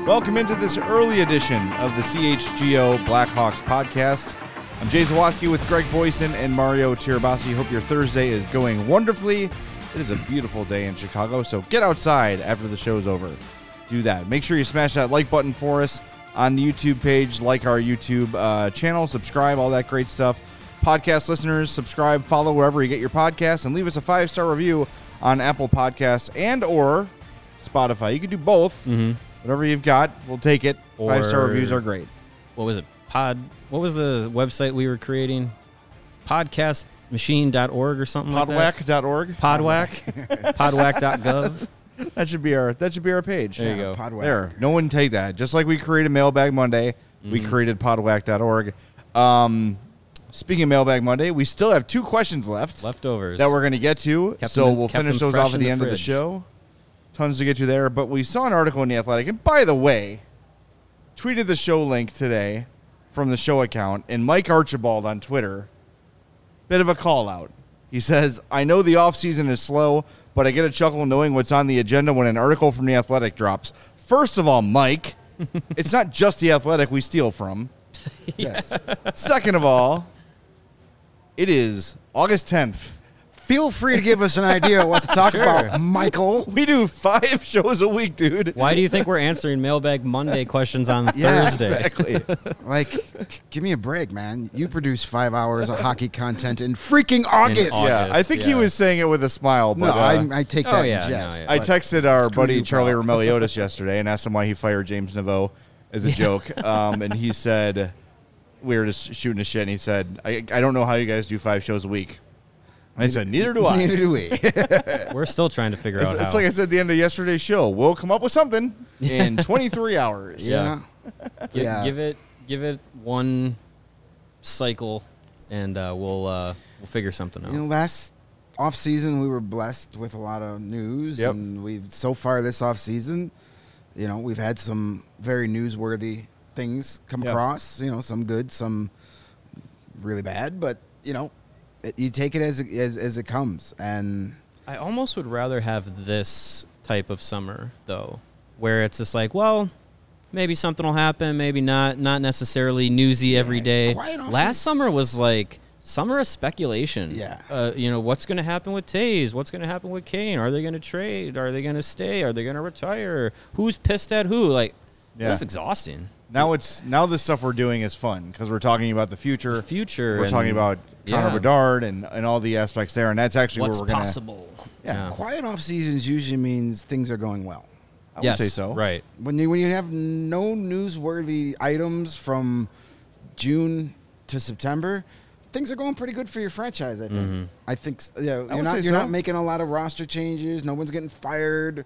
Welcome into this early edition of the CHGO Blackhawks podcast. I'm Jay Zawoski with Greg Boyson and Mario Tirabassi. Hope your Thursday is going wonderfully. It is a beautiful day in Chicago, so get outside after the show's over. Do that. Make sure you smash that like button for us on the YouTube page, like our YouTube channel, subscribe, all that great stuff. Podcast listeners, subscribe, follow wherever you get your podcasts, and leave us a 5-star review on Apple Podcasts and or Spotify. You can do both. Mm-hmm. Whatever you've got, we'll take it. 5-star reviews are great. What was it? What was the website we were creating? Podcastmachine.org or something like that? Podwhack.org? Podwhack? Podwhack.gov? That should be our page. There you go. Podwhack. There. No one take that. Just like we created Mailbag Monday, we created podwhack.org. Speaking of Mailbag Monday, we still have 2 questions Leftovers. that we're going to get to. We'll finish those off at the end of the show. Tons to get to there. But we saw an article in The Athletic. And by the way, tweeted the show link today from the show account. And Mike Archibald on Twitter, bit of a call out. He says, I know the offseason is slow, but I get a chuckle knowing what's on the agenda when an article from The Athletic drops. First of all, Mike, it's not just The Athletic we steal from. Yes. Second of all, it is August 10th. Feel free to give us an idea of what to talk about, Michael. We do 5 shows a week, dude. Why do you think we're answering Mailbag Monday questions on Yeah, Thursday? Exactly. Give me a break, man. You produce 5 hours of hockey content in freaking August. Yeah, I think he was saying it with a smile. But, No, I take that in yeah, jest. no, yeah. I texted our Screw buddy you, Charlie pal. Romeliotis yesterday and asked him why he fired James Naveau as a joke. And he said, we were just shooting a shit, and he said, I don't know how you guys do 5 shows a week. And I said, neither do I. Neither do we. We're still trying to figure out It's how. like I said at the end of yesterday's show. We'll come up with something in 23 hours. Yeah. Yeah. Give it one cycle, and we'll figure something out. You know, last off season we were blessed with a lot of news, Yep. and we've so far this off season, you know, we've had some very newsworthy things come Yep. across. You know, some good, some really bad, but you know, you take it as it comes. And I almost would rather have this type of summer, though, where it's just like, well, maybe something will happen, maybe not necessarily newsy every day. quiet off Last summer was like summer of speculation. Yeah. You know, what's going to happen with Taves? What's going to happen with Kane? Are they going to trade? Are they going to stay? Are they going to retire? Who's pissed at who? Like, that's exhausting. Now this stuff we're doing is fun because we're talking about the future. The future. We're talking about Connor Bedard and all the aspects there, and that's actually what's where we're going to... possible. Yeah. quiet off seasons usually means things are going well. I would say so. Right. When you have no newsworthy items from June to September, things are going pretty good for your franchise, I think. Mm-hmm. I think you're would say not so. making a lot of roster changes. No one's getting fired.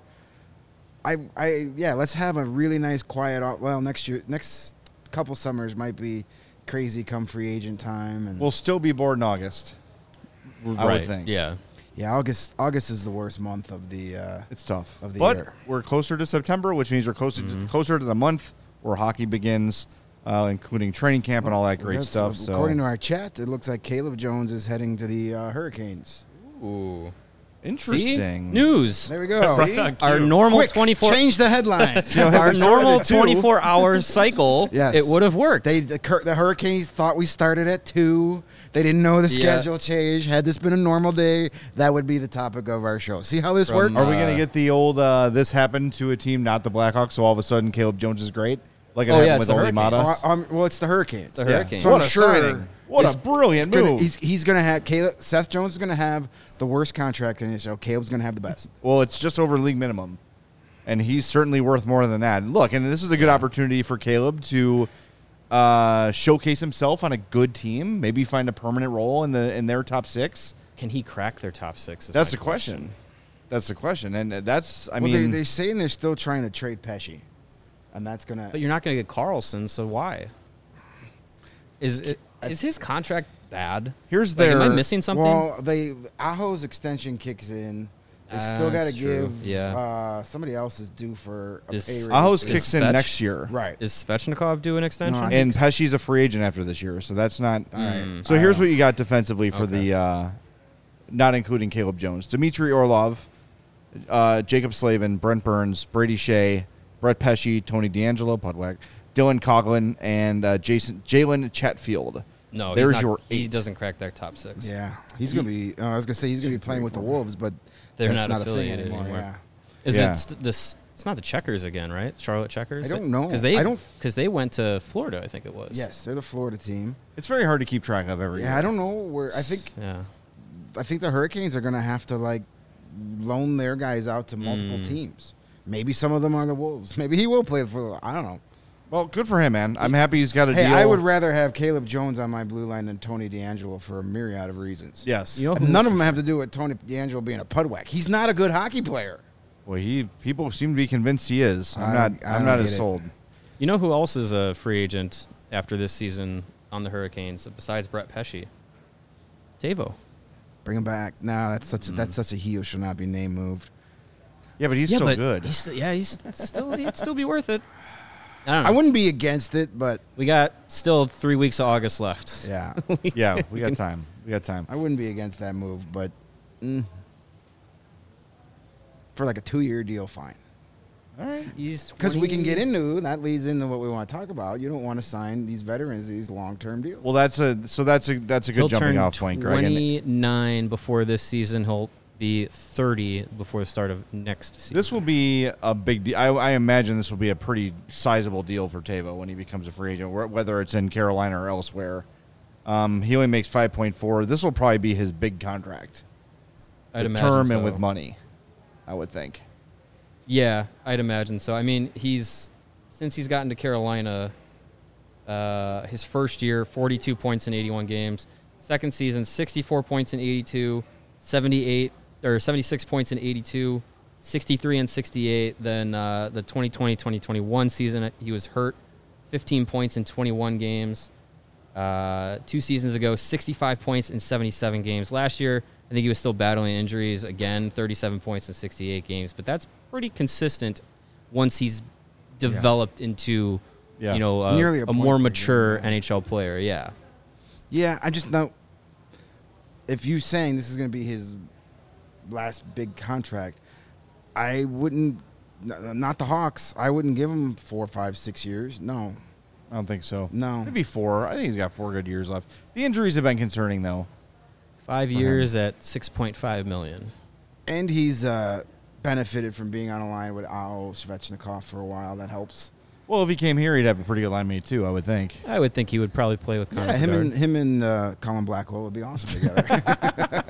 Let's have a really nice quiet off. Well, next couple summers might be crazy come free agent time, and We'll still be bored in August. I would think. Yeah. yeah, August is the worst month of the It's tough. Of the but year. we're closer to September, which means we're closer to the month where hockey begins, including training camp and all that great that's- stuff. So According to our chat, it looks like Caleb Jones is heading to the Hurricanes. Ooh. interesting. See? News. There we go. See? Our normal Quick, 24 change the headlines. our normal 24-hour cycle, Yes. it would have worked. The Hurricanes thought we started at 2. They didn't know the schedule change. Had this been a normal day, that would be the topic of our show. See how this From, works? Are we going to get the old this happened to a team, not the Blackhawks, so all of a sudden Caleb Jones is great? Like it happened it's with the Oli Hurricanes. Matas? Well, it's the Hurricanes. The Hurricanes. So What I'm a sure signing. What a brilliant move. He's going to have Seth Jones is going to have the worst contract in his show. Caleb's going to have the best. Well, it's just over league minimum, and he's certainly worth more than that. Look, and this is a good opportunity for Caleb to showcase himself on a good team, maybe find a permanent role in their top 6. Can he crack their top 6? That's the question. That's the question, and that's They're saying they're still trying to trade Pesci, and that's going But to. you're not going to get Carlson, so why? Is his contract bad? Here's Like, am I their missing something? Well, Aho's extension kicks in. They still got to That's true. give. Yeah. Somebody else is due for a Is- pay raise. Aho's Is kicks in Fetch- next year, Right. Is Svechnikov due an extension? No, I and Pesci's a free agent after this year, so that's not. right. So here's what you got defensively for Okay. the, not including Caleb Jones, Dmitry Orlov, Jacob Slavin, Brent Burns, Brady Shea, Brett Pesci, Tony D'Angelo, Pudwack, Dylan Coughlin, and Jalen Chatfield. No, There's he's not, your he 8. doesn't crack that top 6. Yeah, he's gonna be. I was gonna say he's gonna be playing with the Wolves, but They're that's not a thing affiliated anymore. anymore. Yeah. Is Yeah. it this? It's not the Checkers again, right? Charlotte Checkers. I don't know. because they went to Florida. I think it was. Yes, they're the Florida team. It's very hard to keep track of every year. Yeah, I don't know where. I think the Hurricanes are gonna have to like loan their guys out to multiple teams. Maybe some of them are the Wolves. Maybe he will play for. I don't know. Well, good for him, man. I'm happy he's got a Hey, deal. I would rather have Caleb Jones on my blue line than Tony D'Angelo for a myriad of reasons. Yes. You know, None of them have to do with Tony D'Angelo being a pudwack. He's not a good hockey player. Well, people seem to be convinced he is. I I'm don't not get as it. sold. You know who else is a free agent after this season on the Hurricanes besides Brett Pesci? Tavo. Bring him back. No, that's such a he who should not be name moved. Yeah, but he's yeah, so but good. He's he'd still be worth it. I don't know. I wouldn't be against it, but We got still 3 weeks of August left. yeah, Yeah, we got time. We got time. I wouldn't be against that move. But for like a 2-year deal, fine. All right. He's Because we can 20 get into that leads into what we want to talk about. You don't want to sign these veterans these long-term deals. Well, that's a good He'll jumping turn off point, Greg. And 29 before this season. He'll be 30 before the start of next season. this will be a big deal. I imagine this will be a pretty sizable deal for Tavo when he becomes a free agent, whether it's in Carolina or elsewhere. He only makes 5.4. This will probably be his big contract, I'd with imagine term so. and with money, I would think. Yeah, I'd imagine so. I mean, since he's gotten to Carolina, his first year, 42 points in 81 games. Second season, 64 points in 82, 76 points in 82, 63 and 68. Then the 2020-2021 season, he was hurt, 15 points in 21 games. 2 seasons ago, 65 points in 77 games. Last year, I think he was still battling injuries. Again, 37 points in 68 games. But that's pretty consistent once he's developed into, Nearly a a point more per mature game, NHL player. Yeah. Yeah, I just know if you're saying this is going to be his last big contract, I wouldn't. Not the Hawks. I wouldn't give him 4, 5, 6 years. No. I don't think so. No. Maybe 4. I think he's got 4 good years left. The injuries have been concerning, though. 5 years at $6.5 million. And he's benefited from being on a line with Ao Svechnikov for a while. That helps. Well, if he came here, he'd have a pretty good line mate, too, I would think. I would think he would probably play with Connor Yeah, Bedard. him and Colin Blackwell would be awesome together.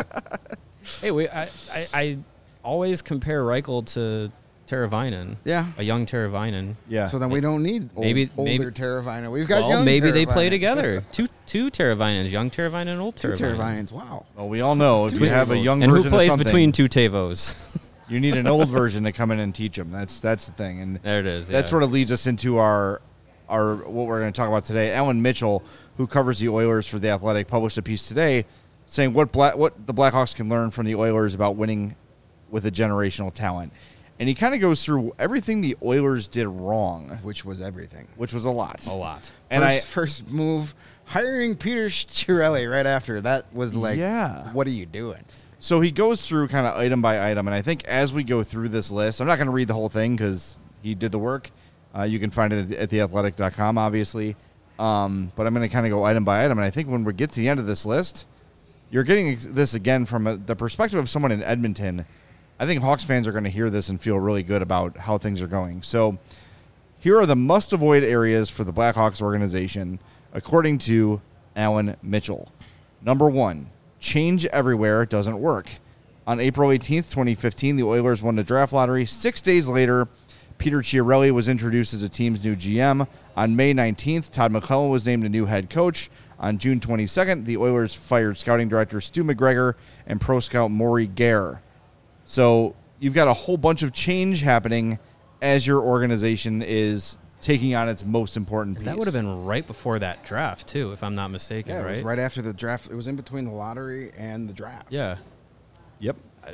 Hey, I always compare Reichel to Teravainen. Yeah. A young Teravainen. Yeah. So then we don't need Maybe- older Teravainen. We've got Well, young maybe they Teravainen. play together. Two Teravainens, young Teravainen and old Two Teravainen. Teravainens. Wow. Well, we all know if Two you have a Tavos. young And who version plays of something, between two Tavos? you need an old version to come in and teach them. That's the thing. And There it is. that yeah. sort of leads us into our what we're going to talk about today. Alan Mitchell, who covers the Oilers for The Athletic, published a piece today saying what the Blackhawks can learn from the Oilers about winning with a generational talent. And he kind of goes through everything the Oilers did wrong, Which was everything. which was a lot. a lot. And First move, hiring Peter Chiarelli right after. That was like, Yeah. what are you doing? So he goes through kind of item by item, and I think as we go through this list, I'm not going to read the whole thing because he did the work. You can find it at theathletic.com, obviously. But I'm going to kind of go item by item, and I think when we get to the end of this list, you're getting this again from the perspective of someone in Edmonton. I think Hawks fans are going to hear this and feel really good about how things are going. So here are the must-avoid areas for the Blackhawks organization, according to Alan Mitchell. Number 1, change everywhere doesn't work. On April 18th, 2015, the Oilers won the draft lottery. 6 days later, Peter Chiarelli was introduced as the team's new GM. On May 19th, Todd McClellan was named a new head coach. On June 22nd, the Oilers fired scouting director Stu McGregor and pro scout Maury Gare. So you've got a whole bunch of change happening as your organization is taking on its most important piece. That would have been right before that draft, too, if I'm not mistaken, Yeah, it right? was right after the draft. It was in between the lottery and the draft. Yeah. Yep.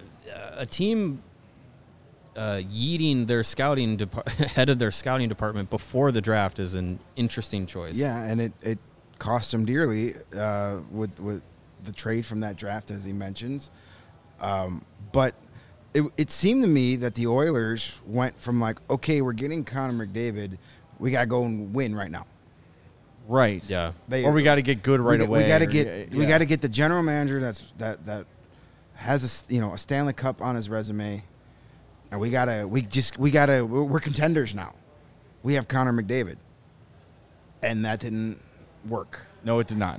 A team yeeting their head of their scouting department before the draft is an interesting choice. Yeah, and it cost him dearly with the trade from that draft, as he mentions. But it seemed to me that the Oilers went from like, okay, we're getting Connor McDavid, we gotta go and win right now. Right. Yeah. Or we got to get good right away. We got to or- get the general manager that has a Stanley Cup on his resume, and we're contenders now. We have Connor McDavid, and that didn't work. No, it did not.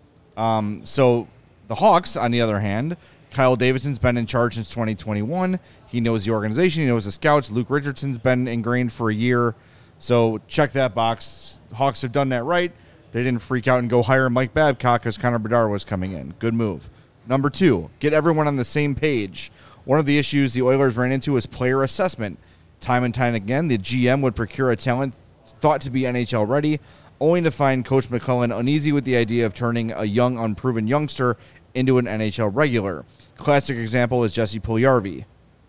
So the Hawks, on the other hand, Kyle Davidson's been in charge since 2021. He knows the organization. He knows the scouts. Luke Richardson's been ingrained for a year. So check that box. Hawks have done that right. They didn't freak out and go hire Mike Babcock because Connor Bedard was coming in. Good move. Number 2, get everyone on the same page. One of the issues the Oilers ran into is player assessment. Time and time again, the GM would procure a talent thought to be NHL ready, only to find Coach McClellan uneasy with the idea of turning a young, unproven youngster into an NHL regular. Classic example is Jesse Puljujarvi.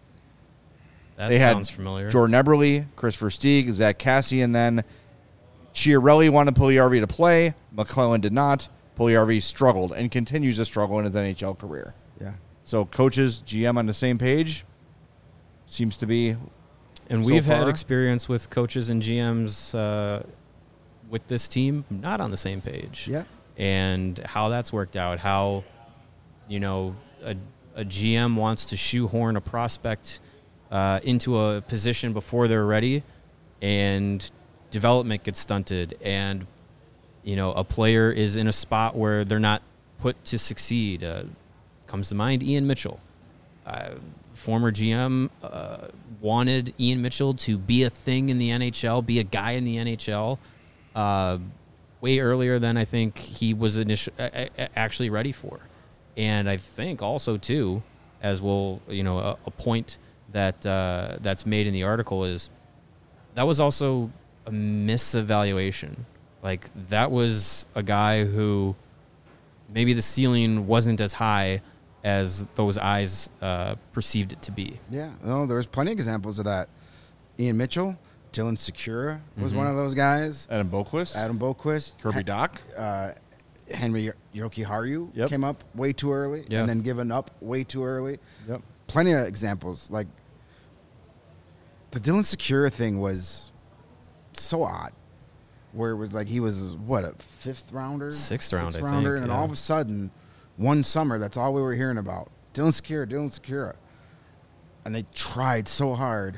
That sounds familiar. Jordan Eberle, Chris Versteeg, Zach Cassian then. Chiarelli wanted Puljujarvi to play. McClellan did not. Puljujarvi struggled and continues to struggle in his NHL career. Yeah. So coaches, GM on the same page seems to be. And so we've had far. experience with coaches and GMs with this team not on the same page. Yeah. And how that's worked out, how, a GM wants to shoehorn a prospect into a position before they're ready, and development gets stunted, and, a player is in a spot where they're not put to succeed. Comes to mind Ian Mitchell. Former GM wanted Ian Mitchell to be a thing in the NHL, be a guy in the NHL, way earlier than I think he was actually ready for. And I think also, too, as we'll, a point that that's made in the article is that was also a misevaluation. Like, that was a guy who maybe the ceiling wasn't as high as those eyes perceived it to be. Yeah, no, there's plenty of examples of that. Ian Mitchell, Dylan Secura was one of those guys. Adam Boquist. Kirby Doc. Henry Jokiharju came up way too early and then given up way too early. Yep. Plenty of examples. Like, the Dylan Secura thing was so odd, where it was like he was, what, a fifth rounder? Sixth round, I think, and yeah. all of a sudden, one summer, that's all we were hearing about. Dylan Secura. And they tried so hard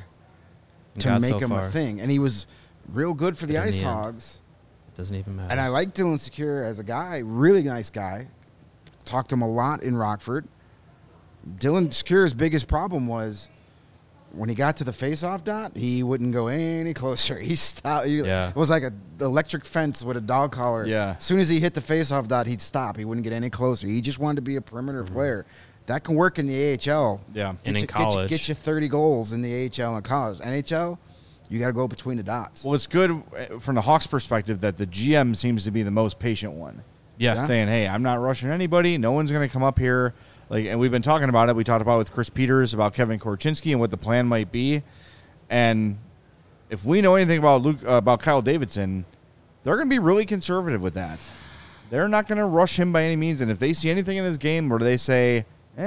to make him a thing. And he was real good for the Ice Hogs. It doesn't even matter. And I like Dylan Secura as a guy, really nice guy. Talked to him a lot in Rockford. Dylan Secura's biggest problem was when he got to the face-off dot, he wouldn't go any closer. He stopped. It was like an electric fence with a dog collar. Yeah. As soon as he hit the face-off dot, he'd stop. He wouldn't get any closer. He just wanted to be a perimeter player. That can work in the AHL. Yeah. And in college. Get you 30 goals in the AHL and college. NHL, you got to go between the dots. Well, it's good from the Hawks' perspective that the GM seems to be the most patient one. Yeah. Saying, hey, I'm not rushing anybody. No one's going to come up here. And we've been talking about it. We talked about it with Chris Peters about Kevin Korchinski and what the plan might be. And if we know anything about Kyle Davidson, they're going to be really conservative with that. They're not going to rush him by any means. And if they see anything in his game where they say,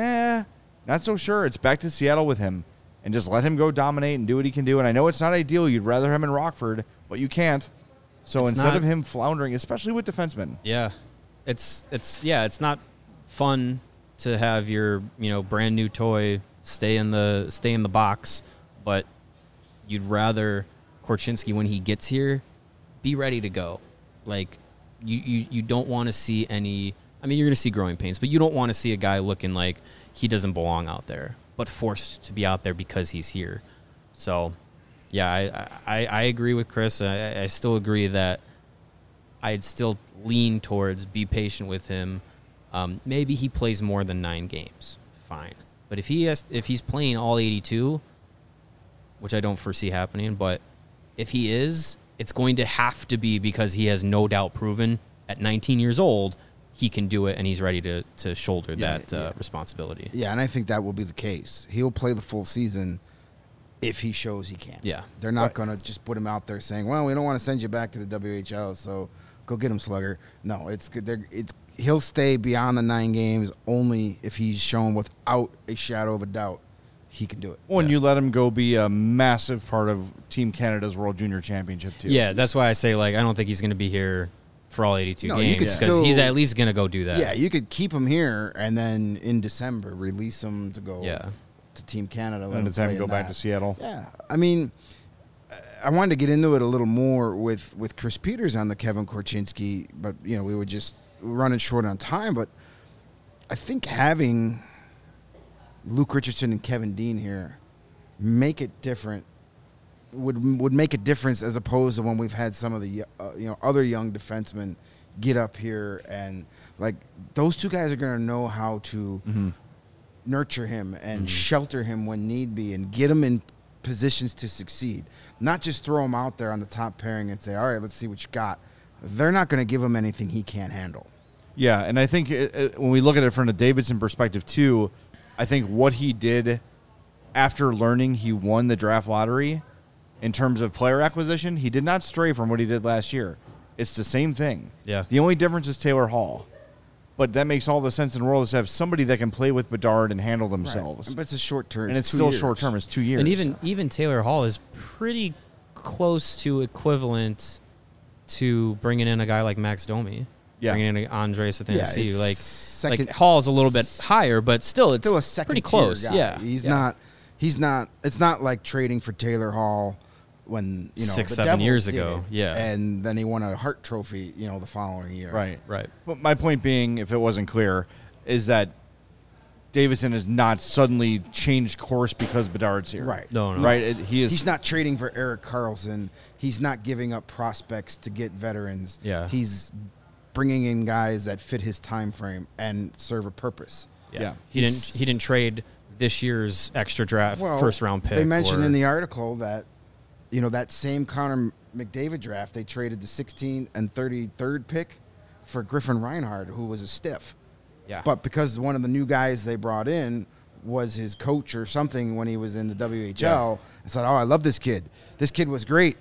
not so sure, it's back to Seattle with him. And just let him go dominate and do what he can do. And I know it's not ideal. You'd rather him in Rockford, but you can't. So instead of him floundering, especially with defensemen. Yeah. It's not fun to have your, brand new toy stay in the box, but you'd rather Korchinski, when he gets here, be ready to go. Like, you don't want to see any. I mean, you're going to see growing pains, but you don't want to see a guy looking like he doesn't belong out there, but forced to be out there because he's here. So, yeah, I agree with Chris. I still agree that I'd still lean towards be patient with him. Maybe he plays more than 9 games. Fine. But if he's playing all 82, which I don't foresee happening, but if he is, it's going to have to be because he has no doubt proven at 19 years old he can do it and he's ready to shoulder that responsibility. Yeah, and I think that will be the case. He'll play the full season if he shows he can. Yeah. They're not going to just put him out there saying, well, we don't want to send you back to the WHL, so go get him, Slugger. No, it's good. He'll stay beyond the 9 games only if he's shown without a shadow of a doubt he can do it. When you let him go be a massive part of Team Canada's World Junior Championship too. Yeah, that's why I say I don't think he's going to be here for all 82 No, you games could because still- he's at least going to go do that. Yeah, you could keep him here and then in December release him to go to Team Canada. let And him it's time to play go in back that. to Seattle. Yeah, I mean, I wanted to get into it a little more with Chris Peters on the Kevin Korchinski, but we were just running short on time. But I think having Luke Richardson and Kevin Dean here make it different. Would make a difference as opposed to when we've had some of the other young defensemen get up here and those two guys are going to know how to nurture him and shelter him when need be and get him in positions to succeed. Not just throw him out there on the top pairing and say, all right, let's see what you got. They're not going to give him anything he can't handle. Yeah, and I think when we look at it from a Davidson perspective too, I think what he did after learning he won the draft lottery in terms of player acquisition, he did not stray from what he did last year. It's the same thing. Yeah. The only difference is Taylor Hall. But that makes all the sense in the world to have somebody that can play with Bedard and handle themselves. But it's a short term. And it's still short term. It's 2 years. And even Taylor Hall is pretty close to equivalent to bringing in a guy like Max Domi. Yeah. Bringing in Andres Athanasiou. it's second- Hall's a little bit higher, but still it's still a second pretty close. guy. Yeah. He's Yeah. not. It's not like trading for Taylor Hall when 6-7 the Devils years did ago. it, Yeah. and then he won a Hart Trophy, the following year. Right. Right. But my point being, if it wasn't clear, is that Davidson has not suddenly changed course because Bedard's here. Right. No. Right? He's not trading for Erik Karlsson. He's not giving up prospects to get veterans. Yeah. He's bringing in guys that fit his time frame and serve a purpose. Yeah. He didn't trade this year's extra draft first round pick. They mentioned in the article that that same Connor McDavid draft, they traded the 16th and 33rd pick for Griffin Reinhardt, who was a stiff. Yeah. But because one of the new guys they brought in was his coach or something when he was in the WHL, I said, I love this kid. This kid was great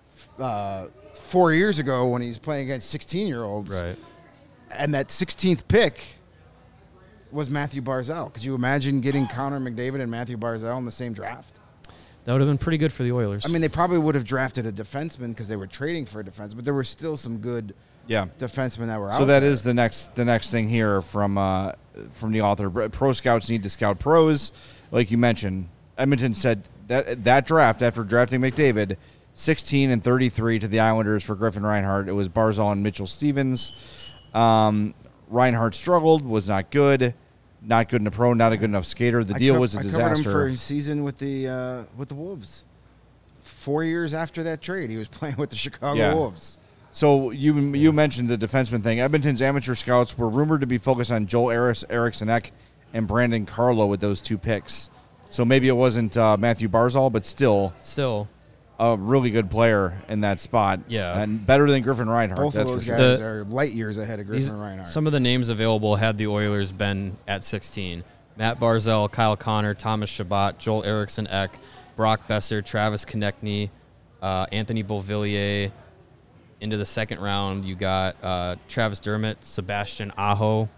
4 years ago when he was playing against 16-year-olds. Right. And that 16th pick was Matthew Barzal. Could you imagine getting Connor McDavid and Matthew Barzal in the same draft? That would have been pretty good for the Oilers. I mean, they probably would have drafted a defenseman because they were trading for a defenseman, but there were still some good defensemen that were out So that there. is the next thing here from the author. Pro scouts need to scout pros, like you mentioned. Edmonton said that draft after drafting McDavid, 16 and 33 to the Islanders for Griffin Reinhardt. It was Barzal and Mitchell Stevens. Reinhardt struggled, was not good in the pro, not a good enough skater. The deal was a I covered him disaster. for his season with the Wolves. 4 years after that trade, he was playing with the Chicago Wolves. So you mentioned the defenseman thing. Edmonton's amateur scouts were rumored to be focused on Joel Eriksson Ek and Brandon Carlo with those two picks. So maybe it wasn't Matthew Barzal, but still a really good player in that spot. Yeah. And better than Griffin Reinhardt. Both that's of those for sure. guys are light years ahead of Griffin Reinhardt. Some of the names available had the Oilers been at 16. Matt Barzal, Kyle Connor, Thomas Chabot, Joel Eriksson Ek, Brock Besser, Travis Konechny, Anthony Beauvillier. Into the second round, you got Travis Dermott, Sebastian Aho.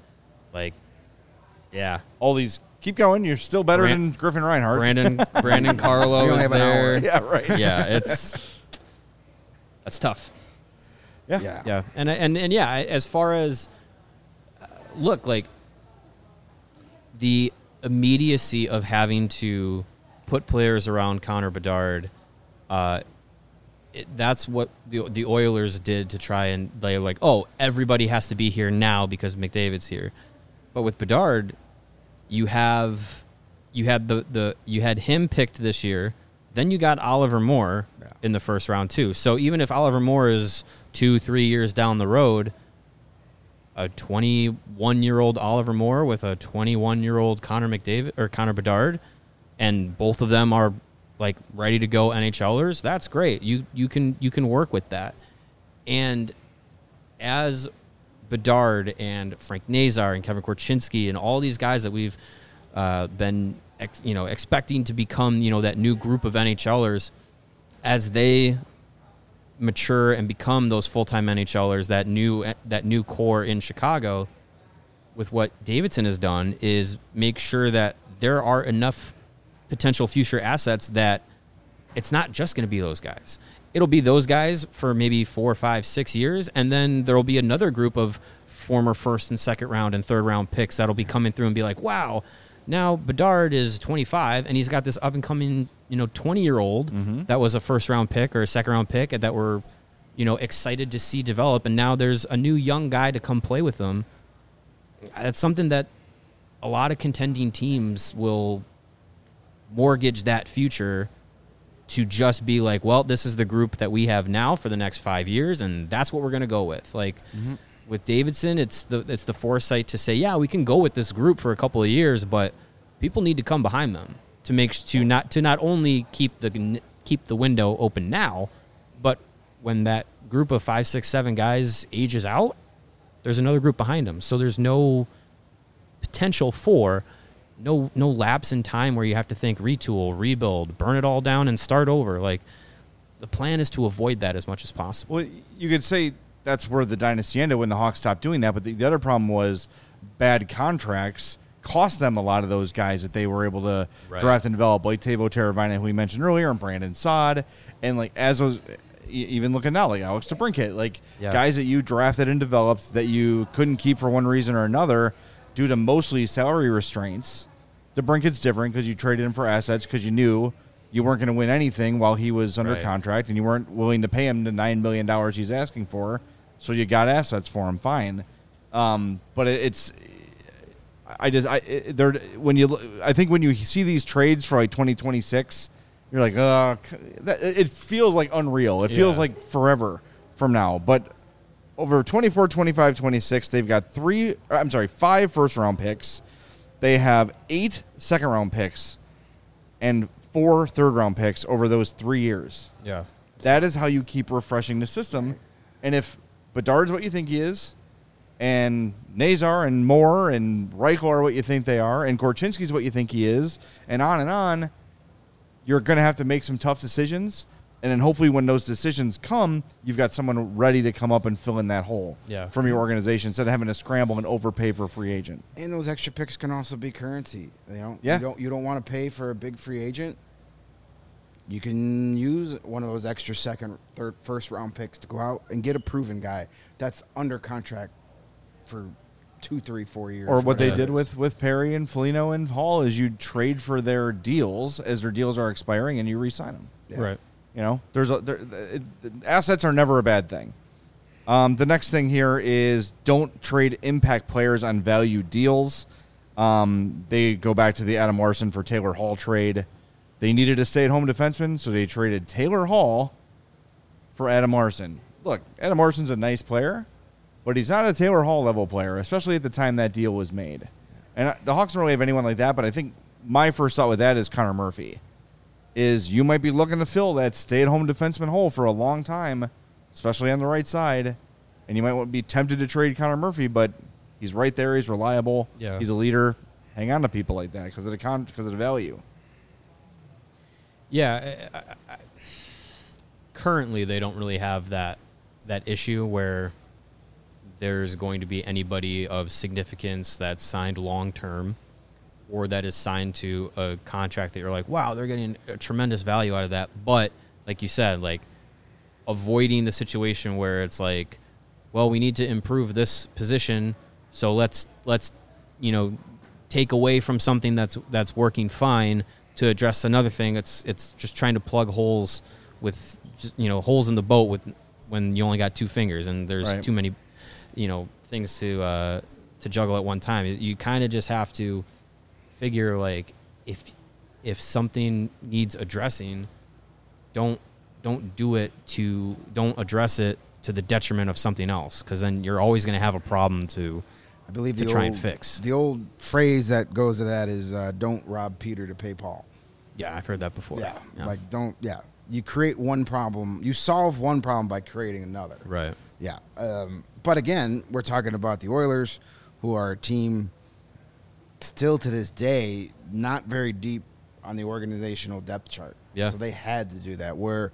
All these keep going. You're still better than Griffin Reinhardt. Brandon Carlo We only is have an hour. there. Yeah, right. Yeah, that's tough. Yeah. Yeah, and yeah, as far as look, the immediacy of having to put players around Connor Bedard, that's what the Oilers did to try and they're like, oh, everybody has to be here now because McDavid's here. But with Bedard, you had him picked this year, then you got Oliver Moore in the first round too. So even if Oliver Moore is 2-3 years down the road, a 21-year-old Oliver Moore with a 21-year-old Connor McDavid or Connor Bedard, and both of them are ready to go NHLers, that's great. You can work with that. And as Bedard and Frank Nazar and Kevin Korchinski and all these guys that we've been expecting to become that new group of NHLers, as they mature and become those full-time NHLers, that new core in Chicago, with what Davidson has done is make sure that there are enough potential future assets that it's not just going to be those guys. It'll be those guys for maybe 4, 5, 6 years, and then there will be another group of former first and second round and third round picks that'll be coming through and be like, wow, now Bedard is 25 and he's got this up and coming, 20-year-old that was a first round pick or a second round pick that we're, excited to see develop, and now there's a new young guy to come play with them. That's something that a lot of contending teams will mortgage that future to just be like, well, this is the group that we have now for the next 5 years, and that's what we're going to go with. Like with Davidson, it's the foresight to say, yeah, we can go with this group for a couple of years, but people need to come behind them to not only keep the window open now, but when that group of 5, 6, 7 guys ages out, there's another group behind them. So there's no potential for no lapse in time where you have to think retool, rebuild, burn it all down and start over. Like, the plan is to avoid that as much as possible. Well, you could say that's where the dynasty ended when the Hawks stopped doing that, but the other problem was bad contracts cost them a lot of those guys that they were able to draft and develop, like Teuvo Teravainen, who we mentioned earlier, and Brandon Saad, and like as those, even looking now, like Alex DeBrincat, like guys that you drafted and developed that you couldn't keep for one reason or another due to mostly salary restraints. DeBrincat's different because you traded him for assets because you knew you weren't going to win anything while he was under contract, and you weren't willing to pay him the $9 million he's asking for, so you got assets for him. Fine, but I think when you see these trades for like 2026, you're like, it feels like unreal. It feels like forever from now. But over 24, 25, 26, they've got 5 first-round picks. They have 8 second-round picks and 4 third-round picks over those 3 years. Yeah. That is how you keep refreshing the system. And if Bedard's what you think he is, and Nazar and Moore and Reichel are what you think they are, and Korchinski's what you think he is, and on, you're going to have to make some tough decisions. And then hopefully when those decisions come, you've got someone ready to come up and fill in that hole from your organization instead of having to scramble and overpay for a free agent. And those extra picks can also be currency. You don't want to pay for a big free agent. You can use one of those extra second, third, first round picks to go out and get a proven guy that's under contract for 2, 3, 4 years. Or what they did with Perry and Foligno and Hall is you trade for their deals as their deals are expiring and you re-sign them. Yeah. Right. Assets are never a bad thing. The next thing here is don't trade impact players on value deals. They go back to the Adam Larson for Taylor Hall trade. They needed a stay-at-home defenseman, so they traded Taylor Hall for Adam Larson. Look, Adam Larson's a nice player, but he's not a Taylor Hall level player, especially at the time that deal was made. And the Hawks don't really have anyone like that, but I think my first thought with that is Connor Murphy. Is you might be looking to fill that stay-at-home defenseman hole for a long time, especially on the right side, and you might be tempted to trade Connor Murphy, but he's right there. He's reliable. Yeah. He's a leader. Hang on to people like that because of the value. Yeah. Currently, they don't really have that issue where there's going to be anybody of significance that's signed long-term or that is signed to a contract that you're like, wow, they're getting a tremendous value out of that. But like you said, like avoiding the situation where it's like, well, we need to improve this position, so let's take away from something that's working fine to address another thing. It's just trying to plug holes with holes in the boat when you only got 2 fingers and there's too many things to juggle at one time. You kind of just have to figure, like, if something needs addressing, don't address it to the detriment of something else, because then you're always going to have a problem to try and fix. The old phrase that goes to that is don't rob Peter to pay Paul. Yeah, I've heard that before. Yeah. You create one problem, you solve one problem by creating another. Right. Yeah. But again, we're talking about the Oilers, who are a team still to this day not very deep on the organizational depth chart. Yeah. So they had to do that, where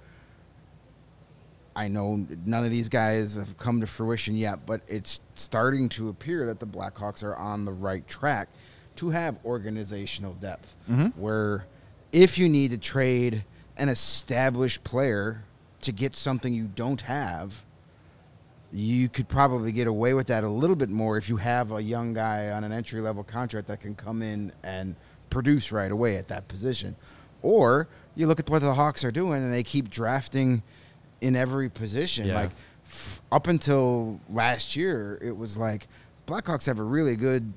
I know none of these guys have come to fruition yet, but it's starting to appear that the Blackhawks are on the right track to have organizational depth, where if you need to trade an established player to get something you don't have, you could probably get away with that a little bit more if you have a young guy on an entry-level contract that can come in and produce right away at that position. Or you look at what the Hawks are doing, and they keep drafting in every position. Yeah. Like up until last year, it was like Blackhawks have a really good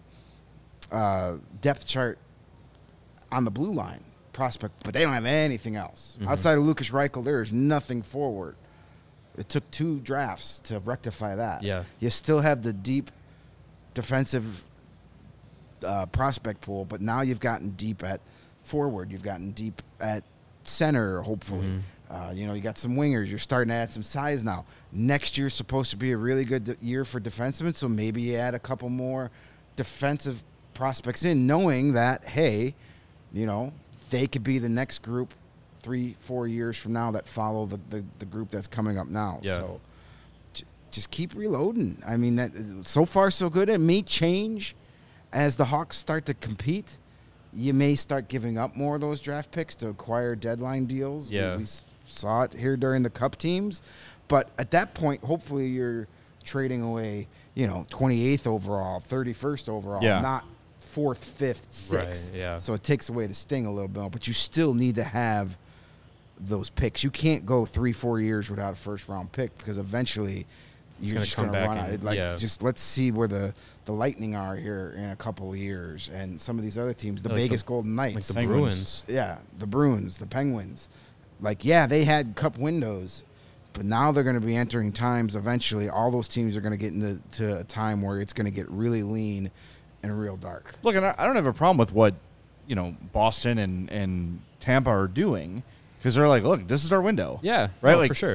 depth chart on the blue line prospect, but they don't have anything else. Outside of Lucas Reichel, there is nothing forward. It took 2 drafts to rectify that. Yeah. You still have the deep defensive prospect pool, but now you've gotten deep at forward. You've gotten deep at center, hopefully. You got some wingers. You're starting to add some size now. Next year's supposed to be a really good year for defensemen, so maybe you add a couple more defensive prospects in, knowing that, hey, they could be the next group 3-4 years from now that follow the group that's coming up now. Yeah. So just keep reloading. I mean, that so far so good. It may change as the Hawks start to compete. You may start giving up more of those draft picks to acquire deadline deals. Yeah. We saw it here during the Cup teams. But at that point, hopefully you're trading away, 28th overall, 31st overall, not 4th, 5th, 6th. Right, yeah. So it takes away the sting a little bit. But you still need to have those picks. You can't go 3-4 years without a first-round pick because eventually you're gonna just come going to back run and- out. Just let's see where the Lightning are here in a couple of years. And some of these other teams, the Like Vegas the- Golden Knights. Like the Penguins. Bruins. Yeah, the Bruins, the Penguins. They had cup windows, but now they're going to be entering times eventually. All those teams are going to get into a time where it's going to get really lean and real dark. Look, and I don't have a problem with what Boston and Tampa are doing because they're like, look, this is our window. Yeah, right. no, Like for sure.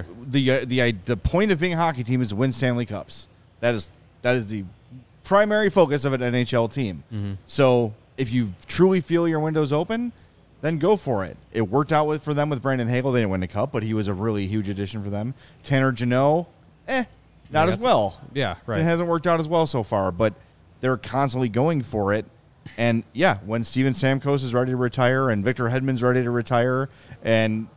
The point of being a hockey team is to win Stanley Cups. That is the primary focus of an NHL team. Mm-hmm. So if you truly feel your window's open, then go for it. It worked out for them with Brandon Hagel. They didn't win the Cup, but he was a really huge addition for them. Tanner Jeannot, not as well. Yeah, right. It hasn't worked out as well so far, but they're constantly going for it. And when Steven Stamkos is ready to retire and Victor Hedman's ready to retire, and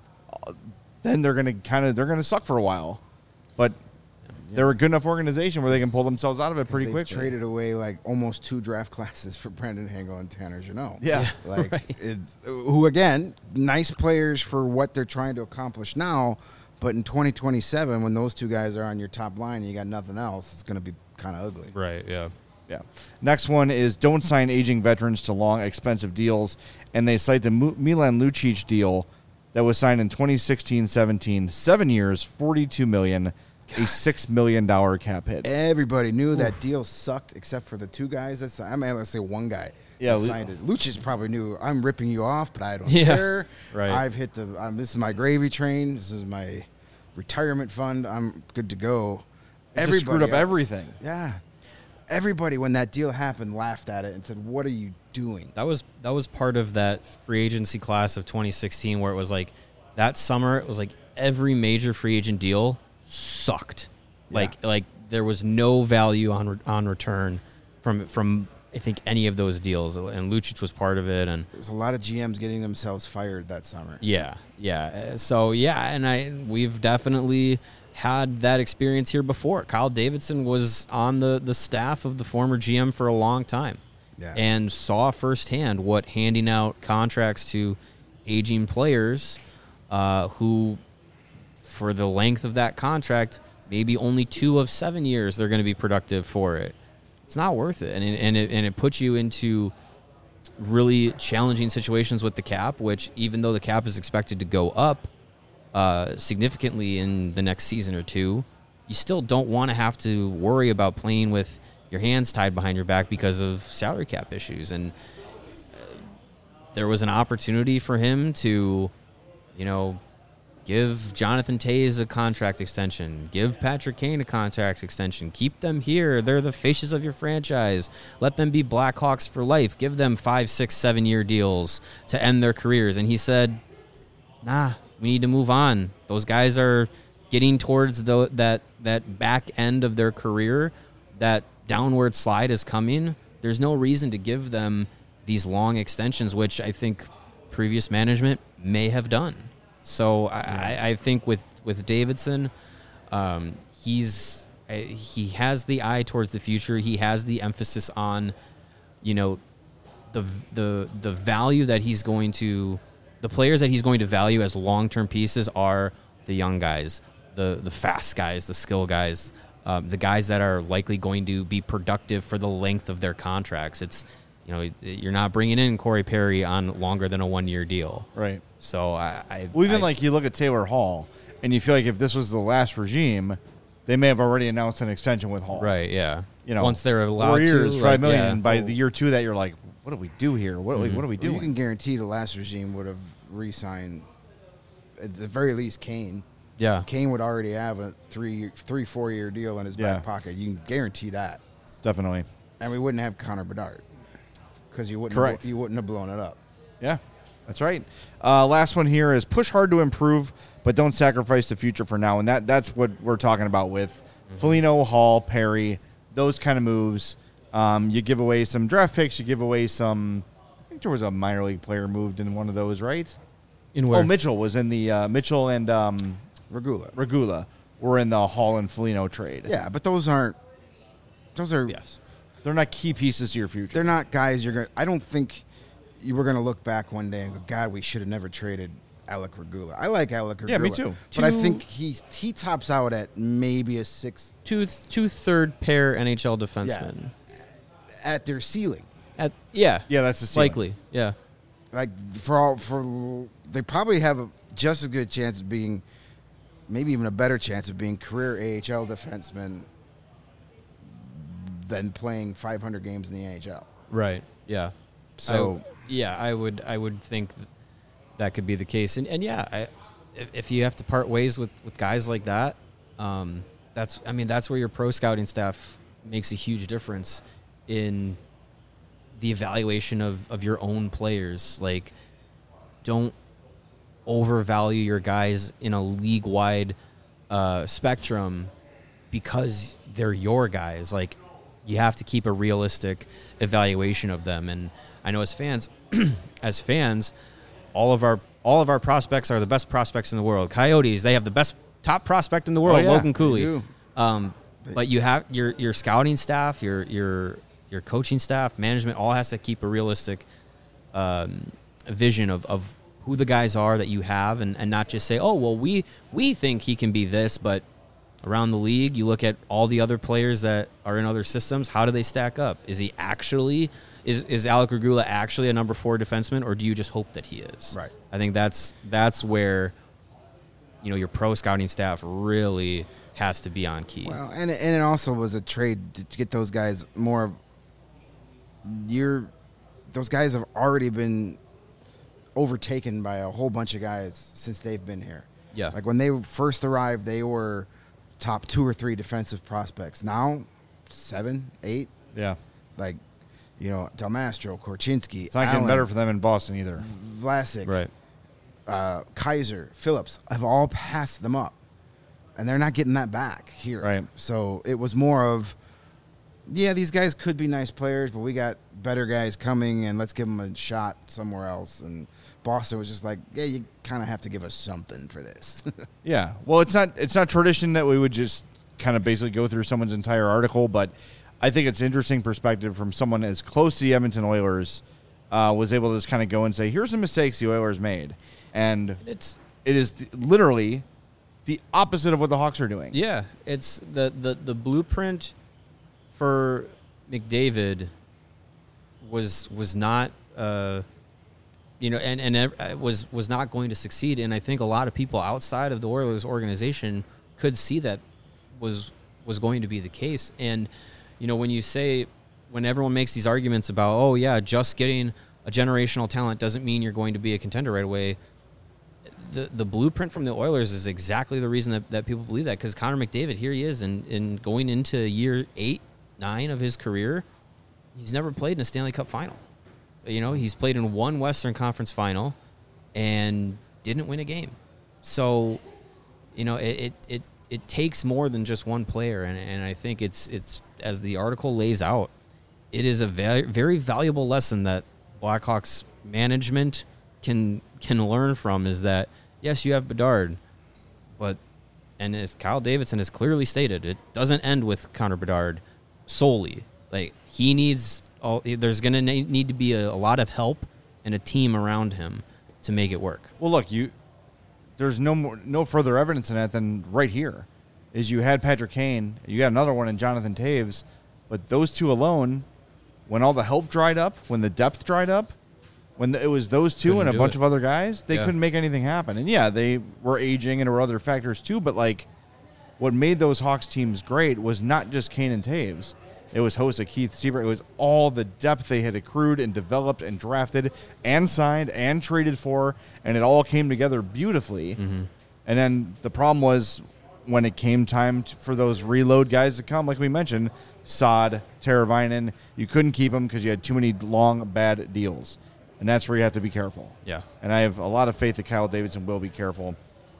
then they're gonna suck for a while. But they're a good enough organization where they can pull themselves out of it pretty They've quickly. traded away like almost 2 draft classes for Brandon Hagel and Tanner Jeannot. Yeah. It's who again, nice players for what they're trying to accomplish now, but in 2027 when those 2 guys are on your top line and you got nothing else, it's going to be kind of ugly. Right, yeah. Yeah. Next one is don't sign aging veterans to long, expensive deals, and they cite the Milan Lucic deal that was signed in 2016-17, 7 years, $42 million, a $6 million cap hit. Everybody knew that deal sucked except for the 2 guys that signed. I say one guy that signed it. Lucic probably knew, I'm ripping you off, but I don't care. Right. I've hit this is my gravy train. This is my retirement fund. I'm good to go. Just screwed up everything. Yeah. Everybody, when that deal happened, laughed at it and said, what are you doing? That was part of that free agency class of 2016 where it was like that summer it was like every major free agent deal sucked. Like there was no value on return from I think any of those deals, and Lucic was part of it. And There's a lot of GMs getting themselves fired that summer. yeah. So and we've definitely had that experience here before. Kyle Davidson was on the staff of the former GM for a long time. Yeah. And saw firsthand what handing out contracts to aging players who, for the length of that contract, maybe only 2 of 7 years they're going to be productive for it. It's not worth it. And it puts you into really challenging situations with the cap, which even though the cap is expected to go up significantly in the next season or 2, you still don't want to have to worry about playing with your hands tied behind your back because of salary cap issues. And there was an opportunity for him to, give Jonathan Toews a contract extension, give Patrick Kane a contract extension, keep them here. They're the faces of your franchise. Let them be Blackhawks for life. Give them 5, 6, 7 year deals to end their careers. And he said, nah, we need to move on. Those guys are getting towards that back end of their career. That downward slide is coming. There's no reason to give them these long extensions, which I think previous management may have done. So I think with Davidson, he has the eye towards the future. He has the emphasis on, the value that he's going to, the players that he's going to value as long-term pieces are the young guys, the fast guys, the skill guys, the guys that are likely going to be productive for the length of their contracts. It's, you're not bringing in Corey Perry on longer than a 1-year deal. Right. So you look at Taylor Hall, and you feel like if this was the last regime, they may have already announced an extension with Hall. Right, yeah. Once they're allowed 4 years, to, $5 million, and by the year 2 that, you're like, what do we do here? What are we doing? You can guarantee the last regime would have re-signed, at the very least, Kane. Yeah. Kane would already have a 4 year deal in his back pocket. You can guarantee that. Definitely. And we wouldn't have Connor Bedard because you wouldn't have blown it up. Yeah, that's right. Last one here is push hard to improve, but don't sacrifice the future for now. And that's what we're talking about with Foligno, Hall, Perry, those kind of moves. You give away some draft picks. You give away some. I think there was a minor league player moved in one of those, right? In where? Oh, Mitchell was in the Mitchell and Regula were in the Hall and Foligno trade. Yeah, but those are yes. They're not key pieces to your future. They're not guys you're going to – I don't think you were going to look back one day and go, God, we should have never traded Alec Regula. I like Alec Regula. Yeah, me too. But I think he tops out at maybe a sixth. Two third pair NHL defensemen. Yeah. At their ceiling. Yeah, that's the ceiling. Likely, yeah. Like, they probably have just as good chance of being – maybe even a better chance of being career AHL defensemen than playing 500 games in the NHL. Right. Yeah. So I would think that could be the case. And if you have to part ways with guys like that, that's where your pro scouting staff makes a huge difference in the evaluation of your own players. Like, don't overvalue your guys in a league-wide spectrum because they're your guys. Like, you have to keep a realistic evaluation of them. And I know as fans, all of our prospects are the best prospects in the world. Coyotes, they have the best top prospect in the world, Logan Cooley. But you have your scouting staff, your coaching staff, management all has to keep a realistic vision of who the guys are that you have, and not just say, oh, well, we think he can be this, but around the league, you look at all the other players that are in other systems, how do they stack up? Is he actually, is Alec Regula actually a number 4 defenseman, or do you just hope that he is? Right. I think that's where, your pro scouting staff really has to be on key. Well, and it also was a trade to get those guys more of those guys have already been overtaken by a whole bunch of guys since they've been here. Yeah. Like when they first arrived, they were top 2 or 3 defensive prospects. Now, 7, 8. Yeah. Like, Del Mastro, Korchinski, it's not getting better for them in Boston either. Vlasic, right. Kaiser, Phillips have all passed them up, and they're not getting that back here. Right. So it was more of, these guys could be nice players, but we got better guys coming, and let's give them a shot somewhere else. And Boston was just like, you kind of have to give us something for this. Yeah. Well, it's not tradition that we would just kind of basically go through someone's entire article, but I think it's interesting perspective from someone as close to the Edmonton Oilers was able to just kind of go and say, here's the mistakes the Oilers made. And it is literally the opposite of what the Hawks are doing. Yeah. It's the blueprint for McDavid was not was not going to succeed, and I think a lot of people outside of the Oilers organization could see that was going to be the case. And when everyone makes these arguments about, just getting a generational talent doesn't mean you're going to be a contender right away, the blueprint from the Oilers is exactly the reason that people believe that, because Connor McDavid, here he is, and going into year 8, 9 of his career, he's never played in a Stanley Cup final. He's played in 1 Western Conference final and didn't win a game. So, it takes more than just one player, and I think it's as the article lays out, it is a very, very valuable lesson that Blackhawks management, can learn from is that, yes, you have Bedard, and as Kyle Davidson has clearly stated, it doesn't end with Connor Bedard solely. Like, he needs there's going to need to be a lot of help and a team around him to make it work. Well, look, there's no further evidence in that than right here. Is you had Patrick Kane, you got another one in Jonathan Taves, but those two alone, when all the help dried up, when the depth dried up, when it was those two Couldn't and a do bunch it. of other guys, they couldn't make anything happen. And yeah, they were aging and there were other factors too, but like what made those Hawks teams great was not just Kane and Taves. It was host of Keith Seabrook. It was all the depth they had accrued and developed and drafted and signed and traded for, and it all came together beautifully. Mm-hmm. And then the problem was when it came time for those reload guys to come, like we mentioned, Saad, Teravainen, you couldn't keep them because you had too many long, bad deals. And that's where you have to be careful. Yeah. And I have a lot of faith that Kyle Davidson will be careful.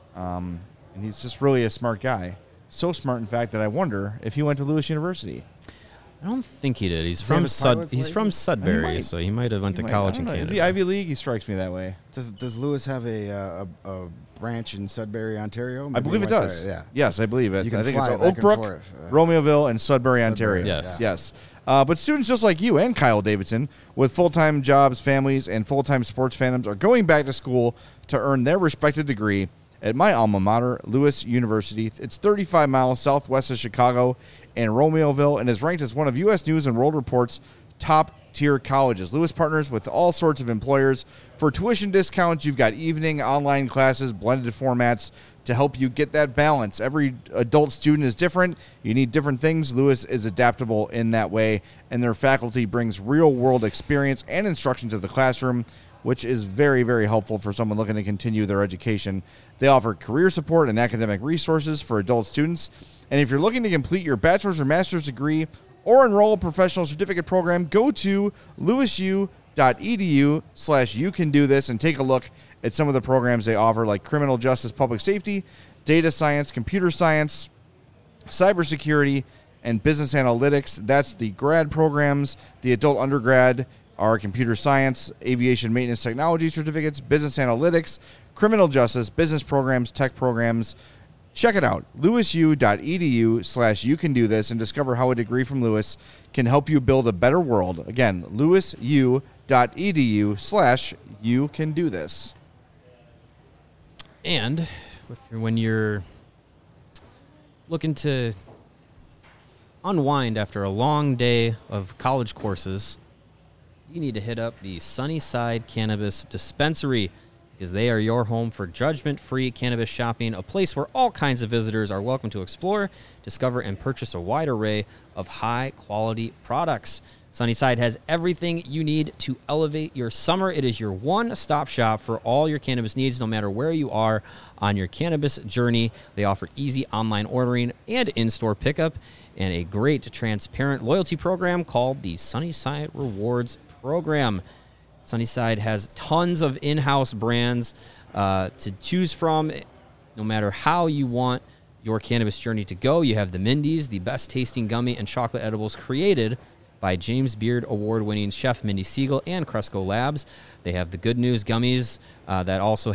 And he's just really a smart guy. So smart, in fact, that I wonder if he went to Lewis University. I don't think he did. He's he from have his pilot's He's from license? Sudbury, might. so he might have went to He might- college I in don't know. Canada. Is he Ivy League? He strikes me that way. Does Lewis have a branch in Sudbury, Ontario? I Maybe believe he it went does. there, Yeah. Yes, I believe it. You can I think fly it's back and Oakbrook, forth. Romeoville, and Sudbury, Ontario. Yes. Yes. But students just like you and Kyle Davidson with full-time jobs, families, and full-time sports fandoms are going back to school to earn their respective degree at my alma mater, Lewis University. It's 35 miles southwest of Chicago in Romeoville and is ranked as one of U.S. News and World Report's top-tier colleges. Lewis partners with all sorts of employers. For tuition discounts, you've got evening, online classes, blended formats to help you get that balance. Every adult student is different. You need different things. Lewis is adaptable in that way, and their faculty brings real-world experience and instruction to the classroom, which is very, very helpful for someone looking to continue their education. They offer career support and academic resources for adult students. And if you're looking to complete your bachelor's or master's degree or enroll a professional certificate program, go to lewisu.edu/youcandothis and take a look at some of the programs they offer, like criminal justice, public safety, data science, computer science, cybersecurity, and business analytics. That's the grad programs. The adult undergrad are computer science, aviation maintenance technology certificates, business analytics, criminal justice, business programs, tech programs. Check it out, lewisu.edu/youcandothis, and discover how a degree from Lewis can help you build a better world. Again, lewisu.edu/youcandothis. And when you're looking to unwind after a long day of college courses, you need to hit up the Sunnyside Cannabis Dispensary, because they are your home for judgment-free cannabis shopping, a place where all kinds of visitors are welcome to explore, discover, and purchase a wide array of high-quality products. Sunnyside has everything you need to elevate your summer. It is your one-stop shop for all your cannabis needs, no matter where you are on your cannabis journey. They offer easy online ordering and in-store pickup, and a great transparent loyalty program called the Sunnyside Rewards Program. Sunnyside has tons of in-house brands to choose from, no matter how you want your cannabis journey to go. You have the Mindy's, the best tasting gummy and chocolate edibles created by James Beard award-winning chef Mindy Siegel and Cresco Labs. They have the Good News gummies that also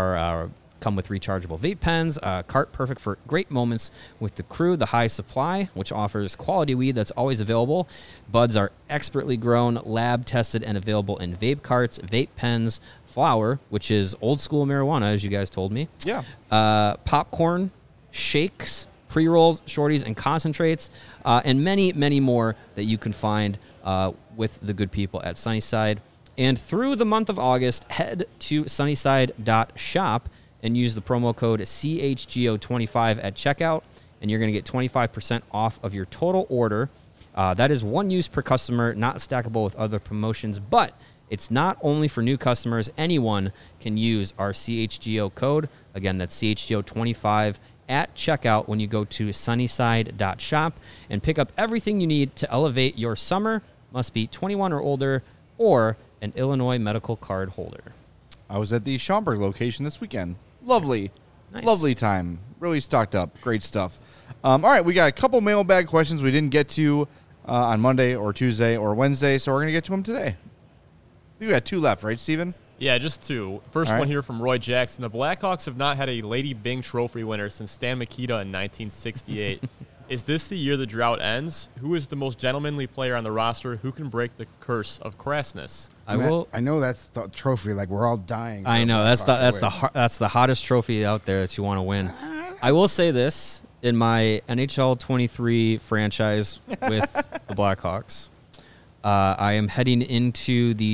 come with rechargeable vape pens, cart perfect for great moments with the crew. The High Supply, which offers quality weed that's always available. Buds are expertly grown, lab tested, and available in vape carts, vape pens, flower, which is old school marijuana, as you guys told me. Yeah. Popcorn, shakes, pre-rolls, shorties, and concentrates, and many, many more that you can find with the good people at Sunnyside. And through the month of August, head to sunnyside.shop and use the promo code CHGO25 at checkout, and you're going to get 25% off of your total order. That is one use per customer, not stackable with other promotions, but it's not only for new customers. Anyone can use our CHGO code. Again, that's CHGO25 at checkout when you go to sunnyside.shop and pick up everything you need to elevate your summer. Must be 21 or older or an Illinois medical card holder. I was at the Schaumburg location this weekend. Lovely. Nice. Lovely time. Really stocked up. Great stuff. All right, we got a couple mailbag questions we didn't get to on Monday or Tuesday or Wednesday, so we're going to get to them today. I think we got two left, right, Steven? Yeah, just two. First All right. one here from Roy Jackson. The Blackhawks have not had a Lady Byng Trophy winner since Stan Mikita in 1968. Is this the year the drought ends? Who is the most gentlemanly player on the roster? Who can break the curse of crassness? I will. I know that's the trophy. Like we're all dying. I for know that's the Blackhawks that's the hottest trophy out there that you want to win. I will say this in my NHL 23 franchise with the Blackhawks. I am heading into the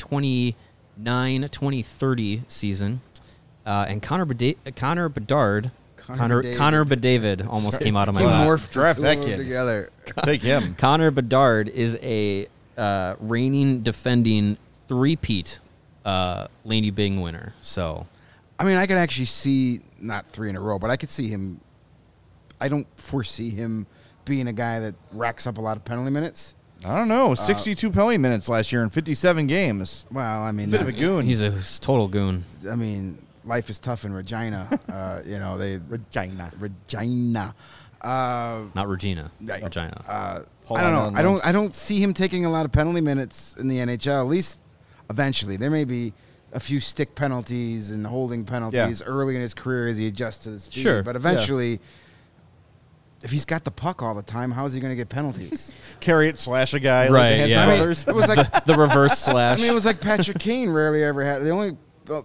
2029-2030 season, and Connor Bedard. Connor Bedard almost came out of my You mouth. morphed Draft the that two of them kid. together. Take him. Connor Bedard is a reigning, defending three-peat Lady Byng winner. So, I mean, I could actually see not 3 in a row, but I could see him. I don't foresee him being a guy that racks up a lot of penalty minutes. I don't know. 62 penalty minutes last year in 57 games. Well, I mean, Bit of a goon. he's a total goon. I mean, life is tough in Regina. Regina. Regina. Not Regina. Right. Regina. I don't know. I don't see him taking a lot of penalty minutes in the NHL. At least eventually, there may be a few stick penalties and holding penalties early in his career as he adjusts to the speed. Sure, But eventually, if he's got the puck all the time, how is he going to get penalties? Carry it, slash a guy. Right, Like the Hanson yeah. brothers. It was like The reverse slash. I mean, it was like Patrick Kane rarely ever had. The only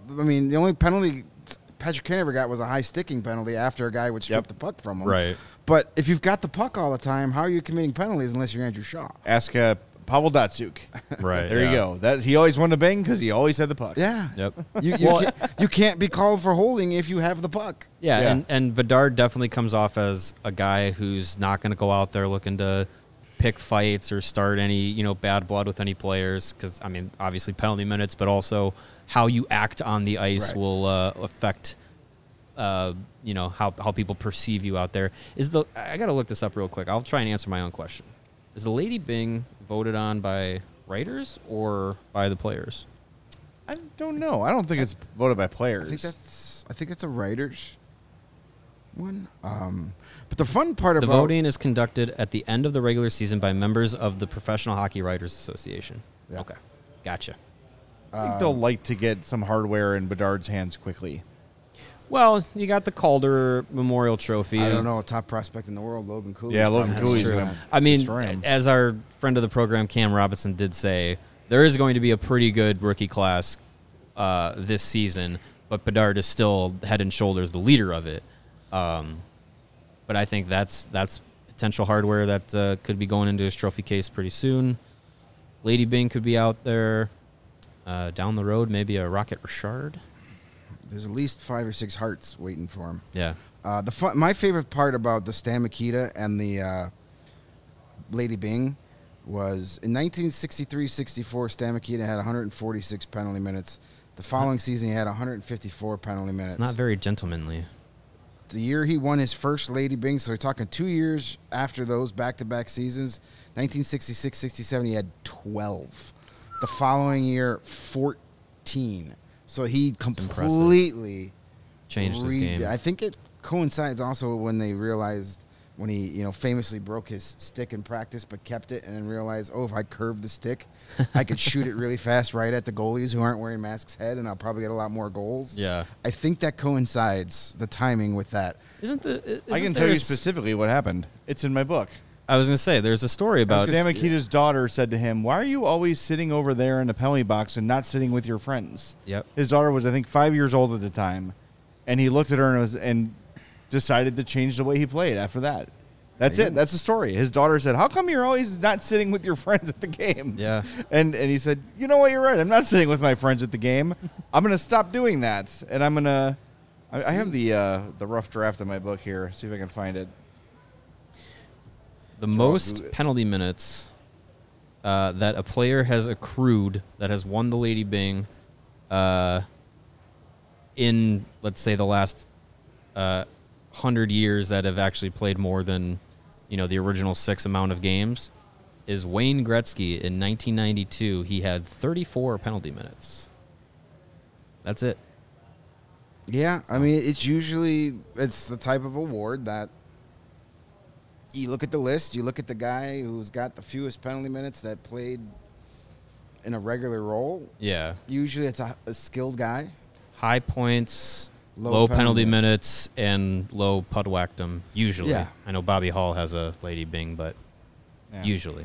penalty Patrick Kane ever got was a high sticking penalty after a guy would strip the puck from him. Right. But if you've got the puck all the time, how are you committing penalties unless you're Andrew Shaw? Ask Pavel Datsuk. Right. There you go. That he always wanted to bang because he always had the puck. Yeah. Yep. You can't be called for holding if you have the puck. Yeah, Yeah. and Bedard definitely comes off as a guy who's not going to go out there looking to pick fights or start any bad blood with any players because, I mean, obviously penalty minutes, but also how you act on the ice Right. will affect how people perceive you out there. I got to look this up real quick. I'll try and answer my own question. Is the Lady Byng voted on by writers or by the players? I don't know. I don't think it's voted by players. I think that's a writer's one. But the fun part The about voting is conducted at the end of the regular season by members of the Professional Hockey Writers Association. Yeah. Okay. Gotcha. I think they'll like to get some hardware in Bedard's hands quickly. Well, you got the Calder Memorial Trophy. I don't know, a top prospect in the world, Logan Cooley. Yeah, Logan That's Cooley's true. going to I mean, destroy him. as our friend of the program, Cam Robinson, did say, there is going to be a pretty good rookie class this season, but Bedard is still head and shoulders the leader of it. But I think that's potential hardware that could be going into his trophy case pretty soon. Lady Byng could be out there. Down the road, maybe a Rocket Richard. There's at least 5 or 6 hearts waiting for him. Yeah. My favorite part about the Stan Mikita and the Lady Byng was in 1963-64, Stan Mikita had 146 penalty minutes. The following season, he had 154 penalty minutes. It's not very gentlemanly. The year he won his first Lady Byng, so we're talking 2 years after those back-to-back seasons, 1966-67, he had 12. The following year, 14. So he completely Changed his game. I think it coincides also when they realized when he famously broke his stick in practice but kept it and then realized, if I curve the stick, I could shoot it really fast right at the goalies who aren't wearing masks head and I'll probably get a lot more goals. Yeah. I think that coincides, the timing with that. I can tell you specifically what happened. It's in my book. I was going to say, there's a story about Stan Mikita's daughter said to him, "Why are you always sitting over there in the penalty box and not sitting with your friends?" Yep. His daughter was, I think, 5 years old at the time, and he looked at her and decided to change the way he played after that. That's it. That's the story. His daughter said, "How come you're always not sitting with your friends at the game?" Yeah. And he said, "You know what? You're right. I'm not sitting with my friends at the game. I'm going to stop doing that, and I'm going to." I have the rough draft of my book here. See if I can find it. The most penalty minutes that a player has accrued that has won the Lady Byng in, let's say, the last 100 years that have actually played more than, the original 6 amount of games is Wayne Gretzky in 1992. He had 34 penalty minutes. That's it. Yeah, I mean, it's the type of award that you look at the list, you look at the guy who's got the fewest penalty minutes that played in a regular role, Yeah. usually it's a skilled guy. High points, Low low penalty penalty minutes, and low pudwhackdom, usually. Yeah. I know Bobby Hall has a Lady Bing, but Yeah. usually.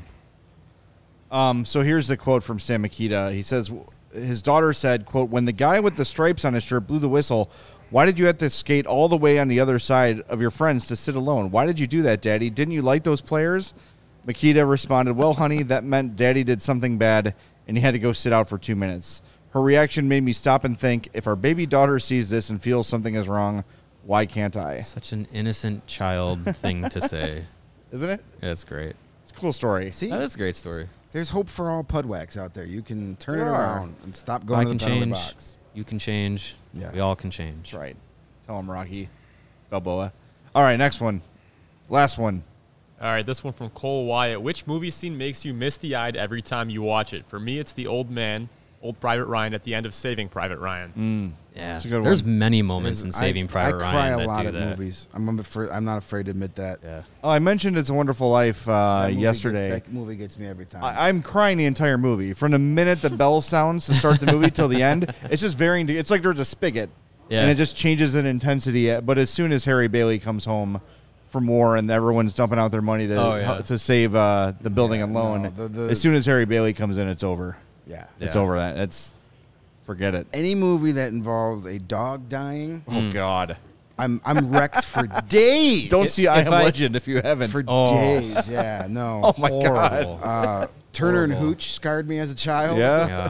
So here's the quote from Stan Mikita. He says, his daughter said, quote, "When the guy with the stripes on his shirt blew the whistle, why did you have to skate all the way on the other side of your friends to sit alone? Why did you do that, Daddy? Didn't you like those players?" Mikita responded, "Well, honey, that meant Daddy did something bad and he had to go sit out for 2 minutes. Her reaction made me stop and think, if our baby daughter sees this and feels something is wrong, why can't I?" Such an innocent child thing to say. Isn't it? That's great. It's a cool story. See, That is a great story. there's hope for all pudwhacks out there. You can turn There it are. around and stop I going to can the penalty change. box. You can change. Yeah. We all can change. That's right. Tell him, Rocky Balboa. All right, next one. Last one. All right, this one from Cole Wyatt. Which movie scene makes you misty-eyed every time you watch it? For me, it's the old man, Old Private Ryan, at the end of Saving Private Ryan. Yeah. That's a good There's one. many moments in Saving Private I Ryan cry a that lot do at that. movies. I'm not afraid to admit that. Yeah. Oh, I mentioned It's a Wonderful Life That movie yesterday. that movie gets me every time. I'm crying the entire movie. From the minute the bell sounds to start the movie till the end, it's just varying. It's like there's a spigot, Yeah. and it just changes in intensity. But as soon as Harry Bailey comes home from war and everyone's dumping out their money to Oh, yeah. to save the building and loan, no, the- as soon as Harry Bailey comes in, it's over. yeah. It's Yeah. over. That it's forget it. Any movie that involves a dog dying, Oh God! I'm wrecked for days. Don't see I if Am I- Legend if you haven't. for Oh. days. Yeah, no. Oh my God! Horrible. Turner and Horrible. Hooch scarred me as a child. Yeah. Yeah.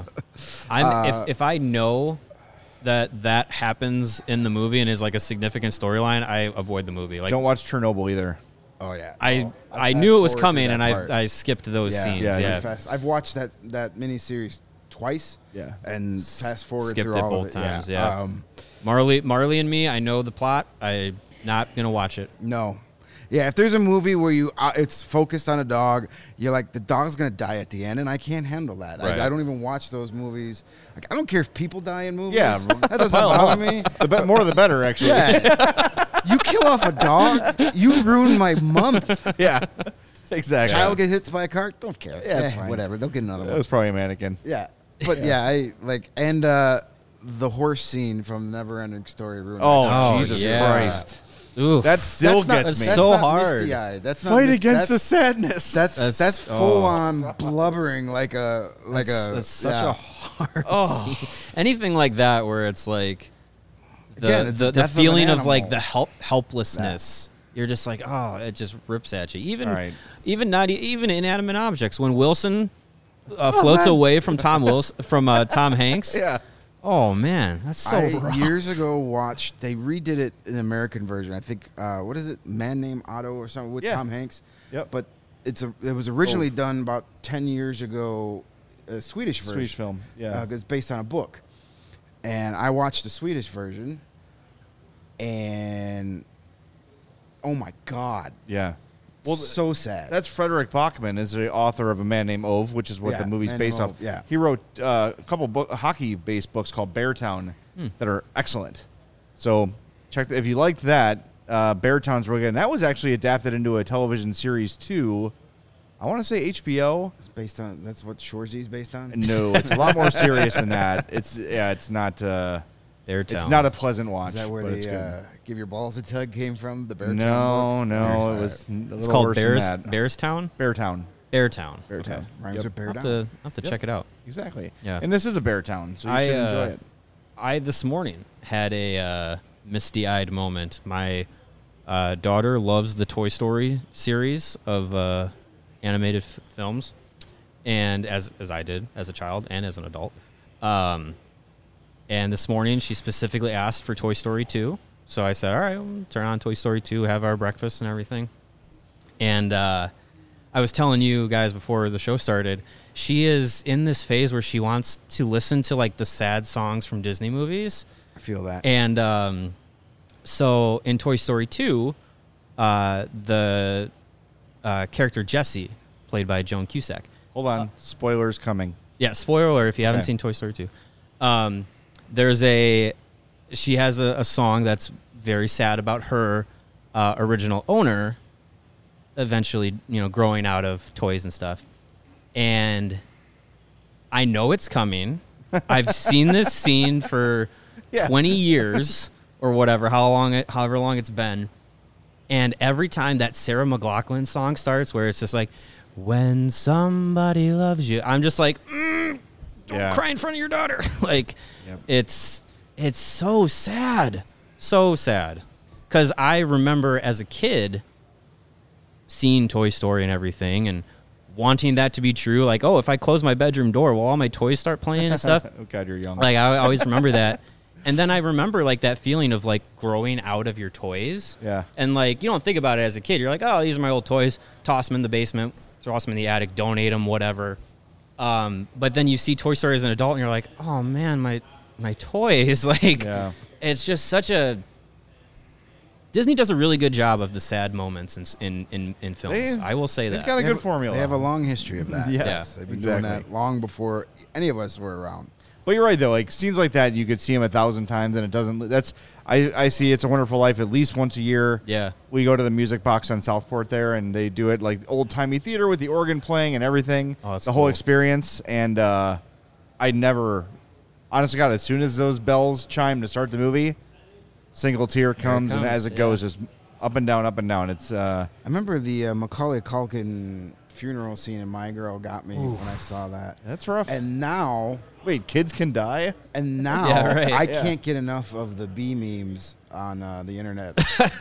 If I know that happens in the movie and is like a significant storyline, I avoid the movie. Like Don't watch Chernobyl either. Oh yeah. I fast knew it was forward coming through and that part. I skipped those scenes. Yeah, Yeah. I've watched that miniseries twice. Yeah. And fast forward Skipped through it all both of it. times, yeah. Um, Marley and Me, I know the plot. I'm not gonna watch it. no. Yeah, if there's a movie where it's focused on a dog, you're like, the dog's gonna die at the end, and I can't handle that. Right. I don't even watch those movies. Like, I don't care if people die in movies. Yeah, that doesn't bother me. The more the better, actually. Yeah, you kill off a dog, you ruin my month. Yeah. Exactly. Child get hit by a car, don't care. Yeah, it's fine. Whatever, they'll get another That one. was probably a mannequin. Yeah, but yeah, I like the horse scene from Neverending Story ruined my Oh, childhood. Oh, Jesus yeah. Christ. Oof. That still That's not- gets me. that's so not hard. misty-eyed. That's not Fight mis- against the that's, sadness. That's full on blubbering like a That's such yeah. a hard scene. Anything like that where it's like Again, it's the death of feeling an of like animal. the helplessness. You're just like, oh, it just rips at you. Even Right. even inanimate objects. When Wilson floats that? away from Tom Hanks. yeah. Oh man, that's so I rough. years ago watched. They redid it in American version. I think what is it? Man Named Otto or something with Yeah. Tom Hanks. Yep. But it was originally done about 10 years ago. A Swedish version. Swedish film. Yeah. It's based on a book, and I watched the Swedish version, and oh my god, Yeah. well, so sad. That's Frederick Bachman, is the author of A Man Named Ove, which is what Yeah, the movie's Man based Named off. Ove, yeah. He wrote a couple hockey-based books called Beartown that are excellent. So check if you liked that. Beartown's really good. And that was actually adapted into a television series too. I want to say HBO. It's based on. That's what Shoresy's based on. No, it's a lot more serious than that. It's not. Beartown. It's not a pleasant watch. Is that where but it's the good. Give Your Balls a Tug came from? The Bear No, Town book? no, Alright, it was. It's called Bearstown. Beartown. Beartown. okay. Beartown. Rhymes Yep. with Bear I'll Down. have to check it out. Exactly. Yeah. And this is a bear town, so you I, should enjoy it. I this morning had a misty-eyed moment. My daughter loves the Toy Story series of animated films, and as I did as a child and as an adult. And this morning she specifically asked for Toy Story 2. So I said, all right, we'll turn on Toy Story 2, have our breakfast and everything. And I was telling you guys before the show started, she is in this phase where she wants to listen to like the sad songs from Disney movies. I feel that. And so in Toy Story 2, the character Jessie, played by Joan Cusack. Hold on. Spoilers coming. Yeah, spoiler alert if you haven't Okay. seen Toy Story 2. She has a song that's very sad about her original owner eventually, growing out of toys and stuff. And I know it's coming. I've seen this scene for 20 years or whatever, however long it's been. And every time that Sarah McLachlan song starts, where it's just like, when somebody loves you, I'm just like, don't cry in front of your daughter. Like, it's so sad. So sad. Because I remember as a kid seeing Toy Story and everything and wanting that to be true. Like, oh, if I close my bedroom door, will all my toys start playing and stuff? Oh, God, you're young. Like, I always remember that. And then I remember, like, that feeling of, like, growing out of your toys. Yeah. And, like, you don't think about it as a kid. You're like, oh, these are my old toys. Toss them in the basement. Toss them in the attic. Donate them, whatever. But then you see Toy Story as an adult, and you're like, oh, man, my toys. Like, it's just such a... Disney does a really good job of the sad moments in films. I will say that. They've got a good formula. They have a long history of that. Yes, They've been doing that long before any of us were around. But you're right, though. Like, scenes like that, you could see them 1,000 times, and it doesn't... I see It's a Wonderful Life at least once a year. Yeah. We go to the Music Box on Southport there, and they do it like old-timey theater with the organ playing and everything. Oh, that's the whole cool. experience. And I never... Honestly, God, as soon as those bells chime to start the movie, single tear comes, and as it goes, just up and down, up and down. It's... I remember the Macaulay Culkin funeral scene in My Girl got me when I saw that. That's rough. And now... Wait, kids can die? And now I can't get enough of the bee memes on the internet.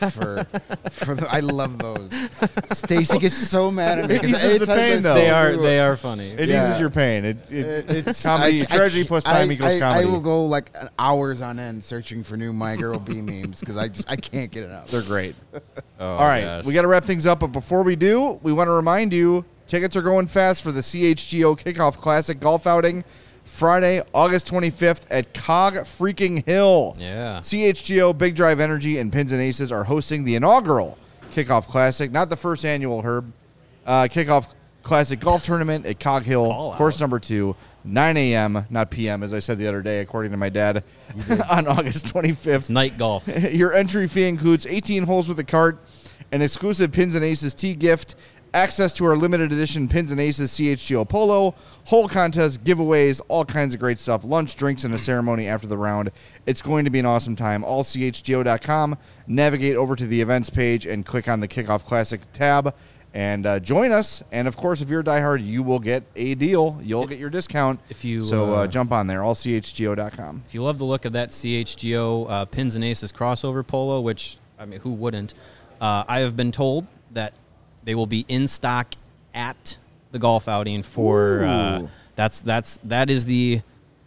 I love those. Stacy gets so mad at me It eases the pain, though. They are funny. It eases your pain. It's comedy. Tragedy plus time equals comedy. I will go like hours on end searching for new My Girl bee memes because I can't get enough. They're great. All right, we got to wrap things up, but before we do, we want to remind you, tickets are going fast for the CHGO Kickoff Classic Golf Outing. Friday, August 25th at Cog Freaking Hill. Yeah. CHGO, Big Drive Energy, and Pins and Aces are hosting the inaugural Kickoff Classic, not the first annual, Herb. Kickoff Classic Golf Tournament at Cog Hill, course number 2, 9 a.m., not p.m., as I said the other day, according to my dad, on August 25th. It's night golf. Your entry fee includes 18 holes with a cart, an exclusive Pins and Aces tee gift, access to our limited edition Pins and Aces CHGO Polo, hole contests, giveaways, all kinds of great stuff, lunch, drinks, and a ceremony after the round. It's going to be an awesome time. AllCHGO.com. Navigate over to the events page and click on the Kickoff Classic tab and join us. And, of course, if you're a diehard, you will get a deal. You'll get your discount. So jump on there, AllCHGO.com. If you love the look of that CHGO Pins and Aces crossover polo, which, I mean, who wouldn't? I have been told that they will be in stock at the golf outing for that is the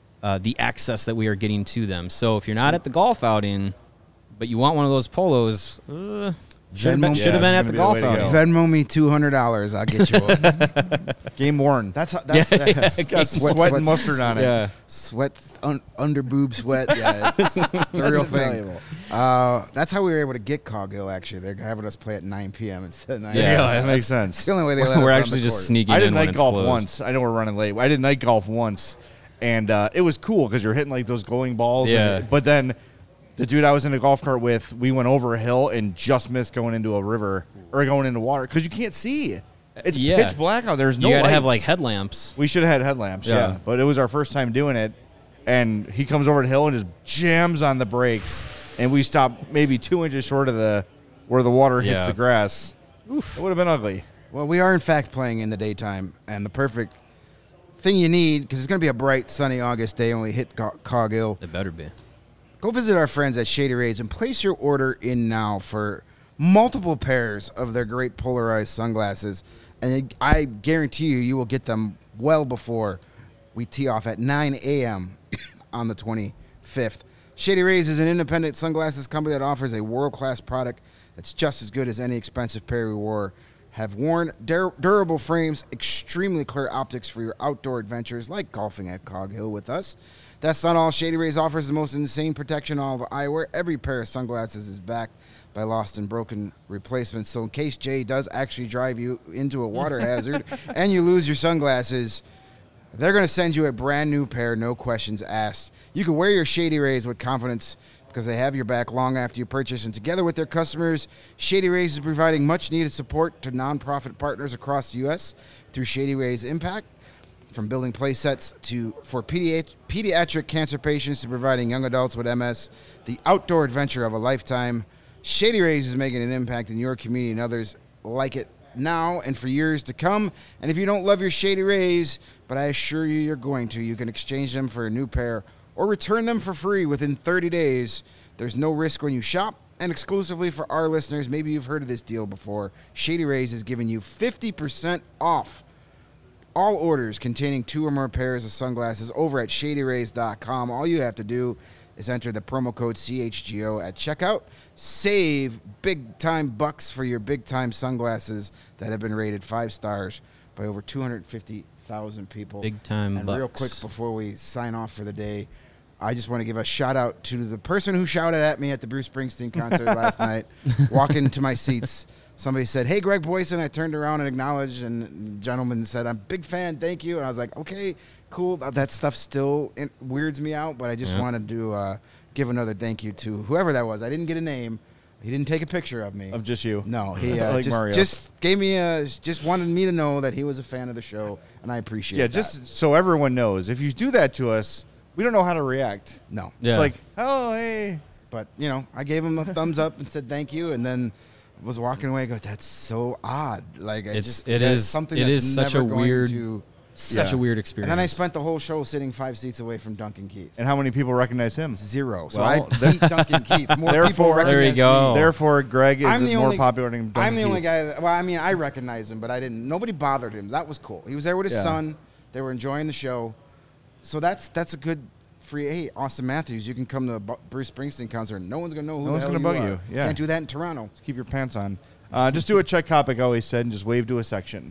access that we are getting to them. So if you're not at the golf outing, but you want one of those polos, should have been at the golf outing. Venmo me $200, I'll get you one. Game worn. That's got sweat and mustard on it. Yeah, sweat under boob sweat. Yeah, it's the real thing. That's how we were able to get Cog Hill. Actually, they're having us play at 9 p.m. instead of 9 a.m. Yeah, that makes sense. It's the only way they let us we're on actually the just course. sneaking. I did in night when it's golf closed. once. I know we're running late. I did night golf once, and it was cool because you're hitting like those glowing balls. Yeah. But then the dude I was in a golf cart with, we went over a hill and just missed going into a river or going into water because you can't see. It's pitch black out. There's no You gotta lights. have like headlamps. We should have had headlamps, yeah. But it was our first time doing it, and he comes over the hill and just jams on the brakes, and we stopped maybe 2 inches short of where the water hits the grass. Oof. It would have been ugly. Well, we are in fact playing in the daytime, and the perfect thing you need, because it's going to be a bright, sunny August day when we hit Cog Hill. It better be. Go visit our friends at Shady Rays and place your order in now for multiple pairs of their great polarized sunglasses. And I guarantee you will get them well before we tee off at 9 a.m. on the 25th. Shady Rays is an independent sunglasses company that offers a world-class product that's just as good as any expensive pair we have worn. Durable frames, extremely clear optics for your outdoor adventures like golfing at Cog Hill with us. That's not all. Shady Rays offers the most insane protection on all of eyewear. Every pair of sunglasses is backed by lost and broken replacements. So in case Jay does actually drive you into a water hazard and you lose your sunglasses, they're going to send you a brand new pair, no questions asked. You can wear your Shady Rays with confidence because they have your back long after you purchase. And together with their customers, Shady Rays is providing much-needed support to nonprofit partners across the U.S. through Shady Rays Impact. From building play sets for pediatric cancer patients to providing young adults with MS, the outdoor adventure of a lifetime, Shady Rays is making an impact in your community and others like it now and for years to come. And if you don't love your Shady Rays, but I assure you you're going to, you can exchange them for a new pair or return them for free within 30 days. There's no risk when you shop. And exclusively for our listeners, maybe you've heard of this deal before, Shady Rays is giving you 50% off all orders containing 2 or more pairs of sunglasses over at ShadyRays.com. All you have to do is enter the promo code CHGO at checkout. Save big-time bucks for your big-time sunglasses that have been rated 5 stars by over 250,000 people. Big-time And bucks. real quick before we sign off for the day, I just want to give a shout-out to the person who shouted at me at the Bruce Springsteen concert last night, walking to my seats. Somebody said, "Hey, Greg Boyson." I turned around and acknowledged, and the gentleman said, "I'm a big fan, thank you." And I was like, okay, cool. That stuff still weirds me out, but I just wanted to give another thank you to whoever that was. I didn't get a name. He didn't take a picture of me. Of just you. No, he Like Mario. just gave me just wanted me to know that he was a fan of the show, and I appreciate Yeah, that. just so everyone knows, if you do that to us, we don't know how to react. No. Yeah. It's like, oh, hey. But, I gave him a thumbs up and said thank you, and then was walking away. I go, that's so odd. Like, It that's is something it that's is such never a going weird to. such a weird experience. And then I spent the whole show sitting 5 seats away from Duncan Keith. And how many people recognize him? 0. So Well, I beat Duncan Keith. More people therefore- recognize There you go. me. Therefore, Greg is I'm the more only- popular than Duncan I'm the only Keith. guy that, well, I mean, I recognized him, but I didn't. Nobody bothered him. That was cool. He was there with his Yeah. son. They were enjoying the show. So that's a good free. Hey, Austin Matthews, you can come to a Bruce Springsteen concert. No one's gonna know who No the one's hell gonna bug are. you. Yeah. Can't do that in Toronto. Just keep your pants on. Just do what Chet Kopic always said and just wave to a section.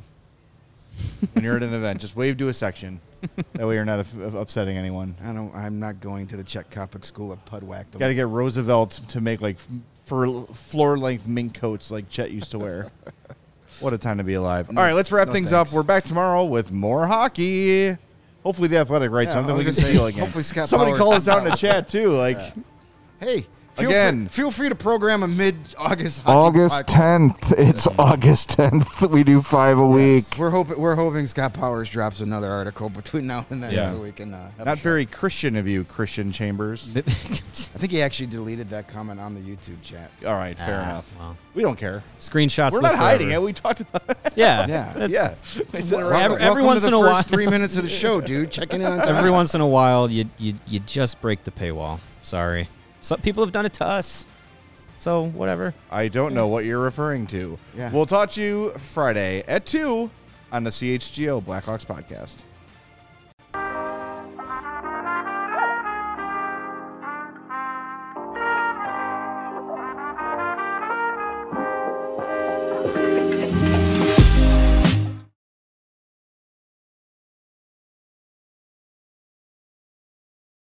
When you're at an event, just wave to a section. That way you're not upsetting anyone. I'm not going to the Czech Kopic School of Pudwack. Got to get Roosevelt to make like floor-length mink coats like Chet used to wear. What a time to be alive. All right, let's wrap no things thanks. up. We're back tomorrow with more hockey. Hopefully the Athletic writes Yeah, something I we can was gonna steal say, again. hopefully Scott Somebody Powers- call us out in the chat too. Like, Hey, feel free to program a mid-August hockey August podcast. 10th. It's August 10th. We do 5 a week. Yes, we're hoping Scott Powers drops another article between now and then, Yeah. so we can. Have a not show. very Christian of you, Christian Chambers. I think he actually deleted that comment on the YouTube chat. All right, fair Ah, enough. well. We don't care. Screenshots. We're live not hiding forever. it. We talked about it. Yeah. Yeah. That's- Yeah. We said it Well, right every there. Welcome once to the in a first while- 3 minutes of the show, dude. Checking in on time. Every once in a while, you just break the paywall. Sorry. Some people have done it to us. So whatever. I don't know what you're referring to. Yeah. We'll talk to you Friday at 2 on the CHGO Blackhawks podcast.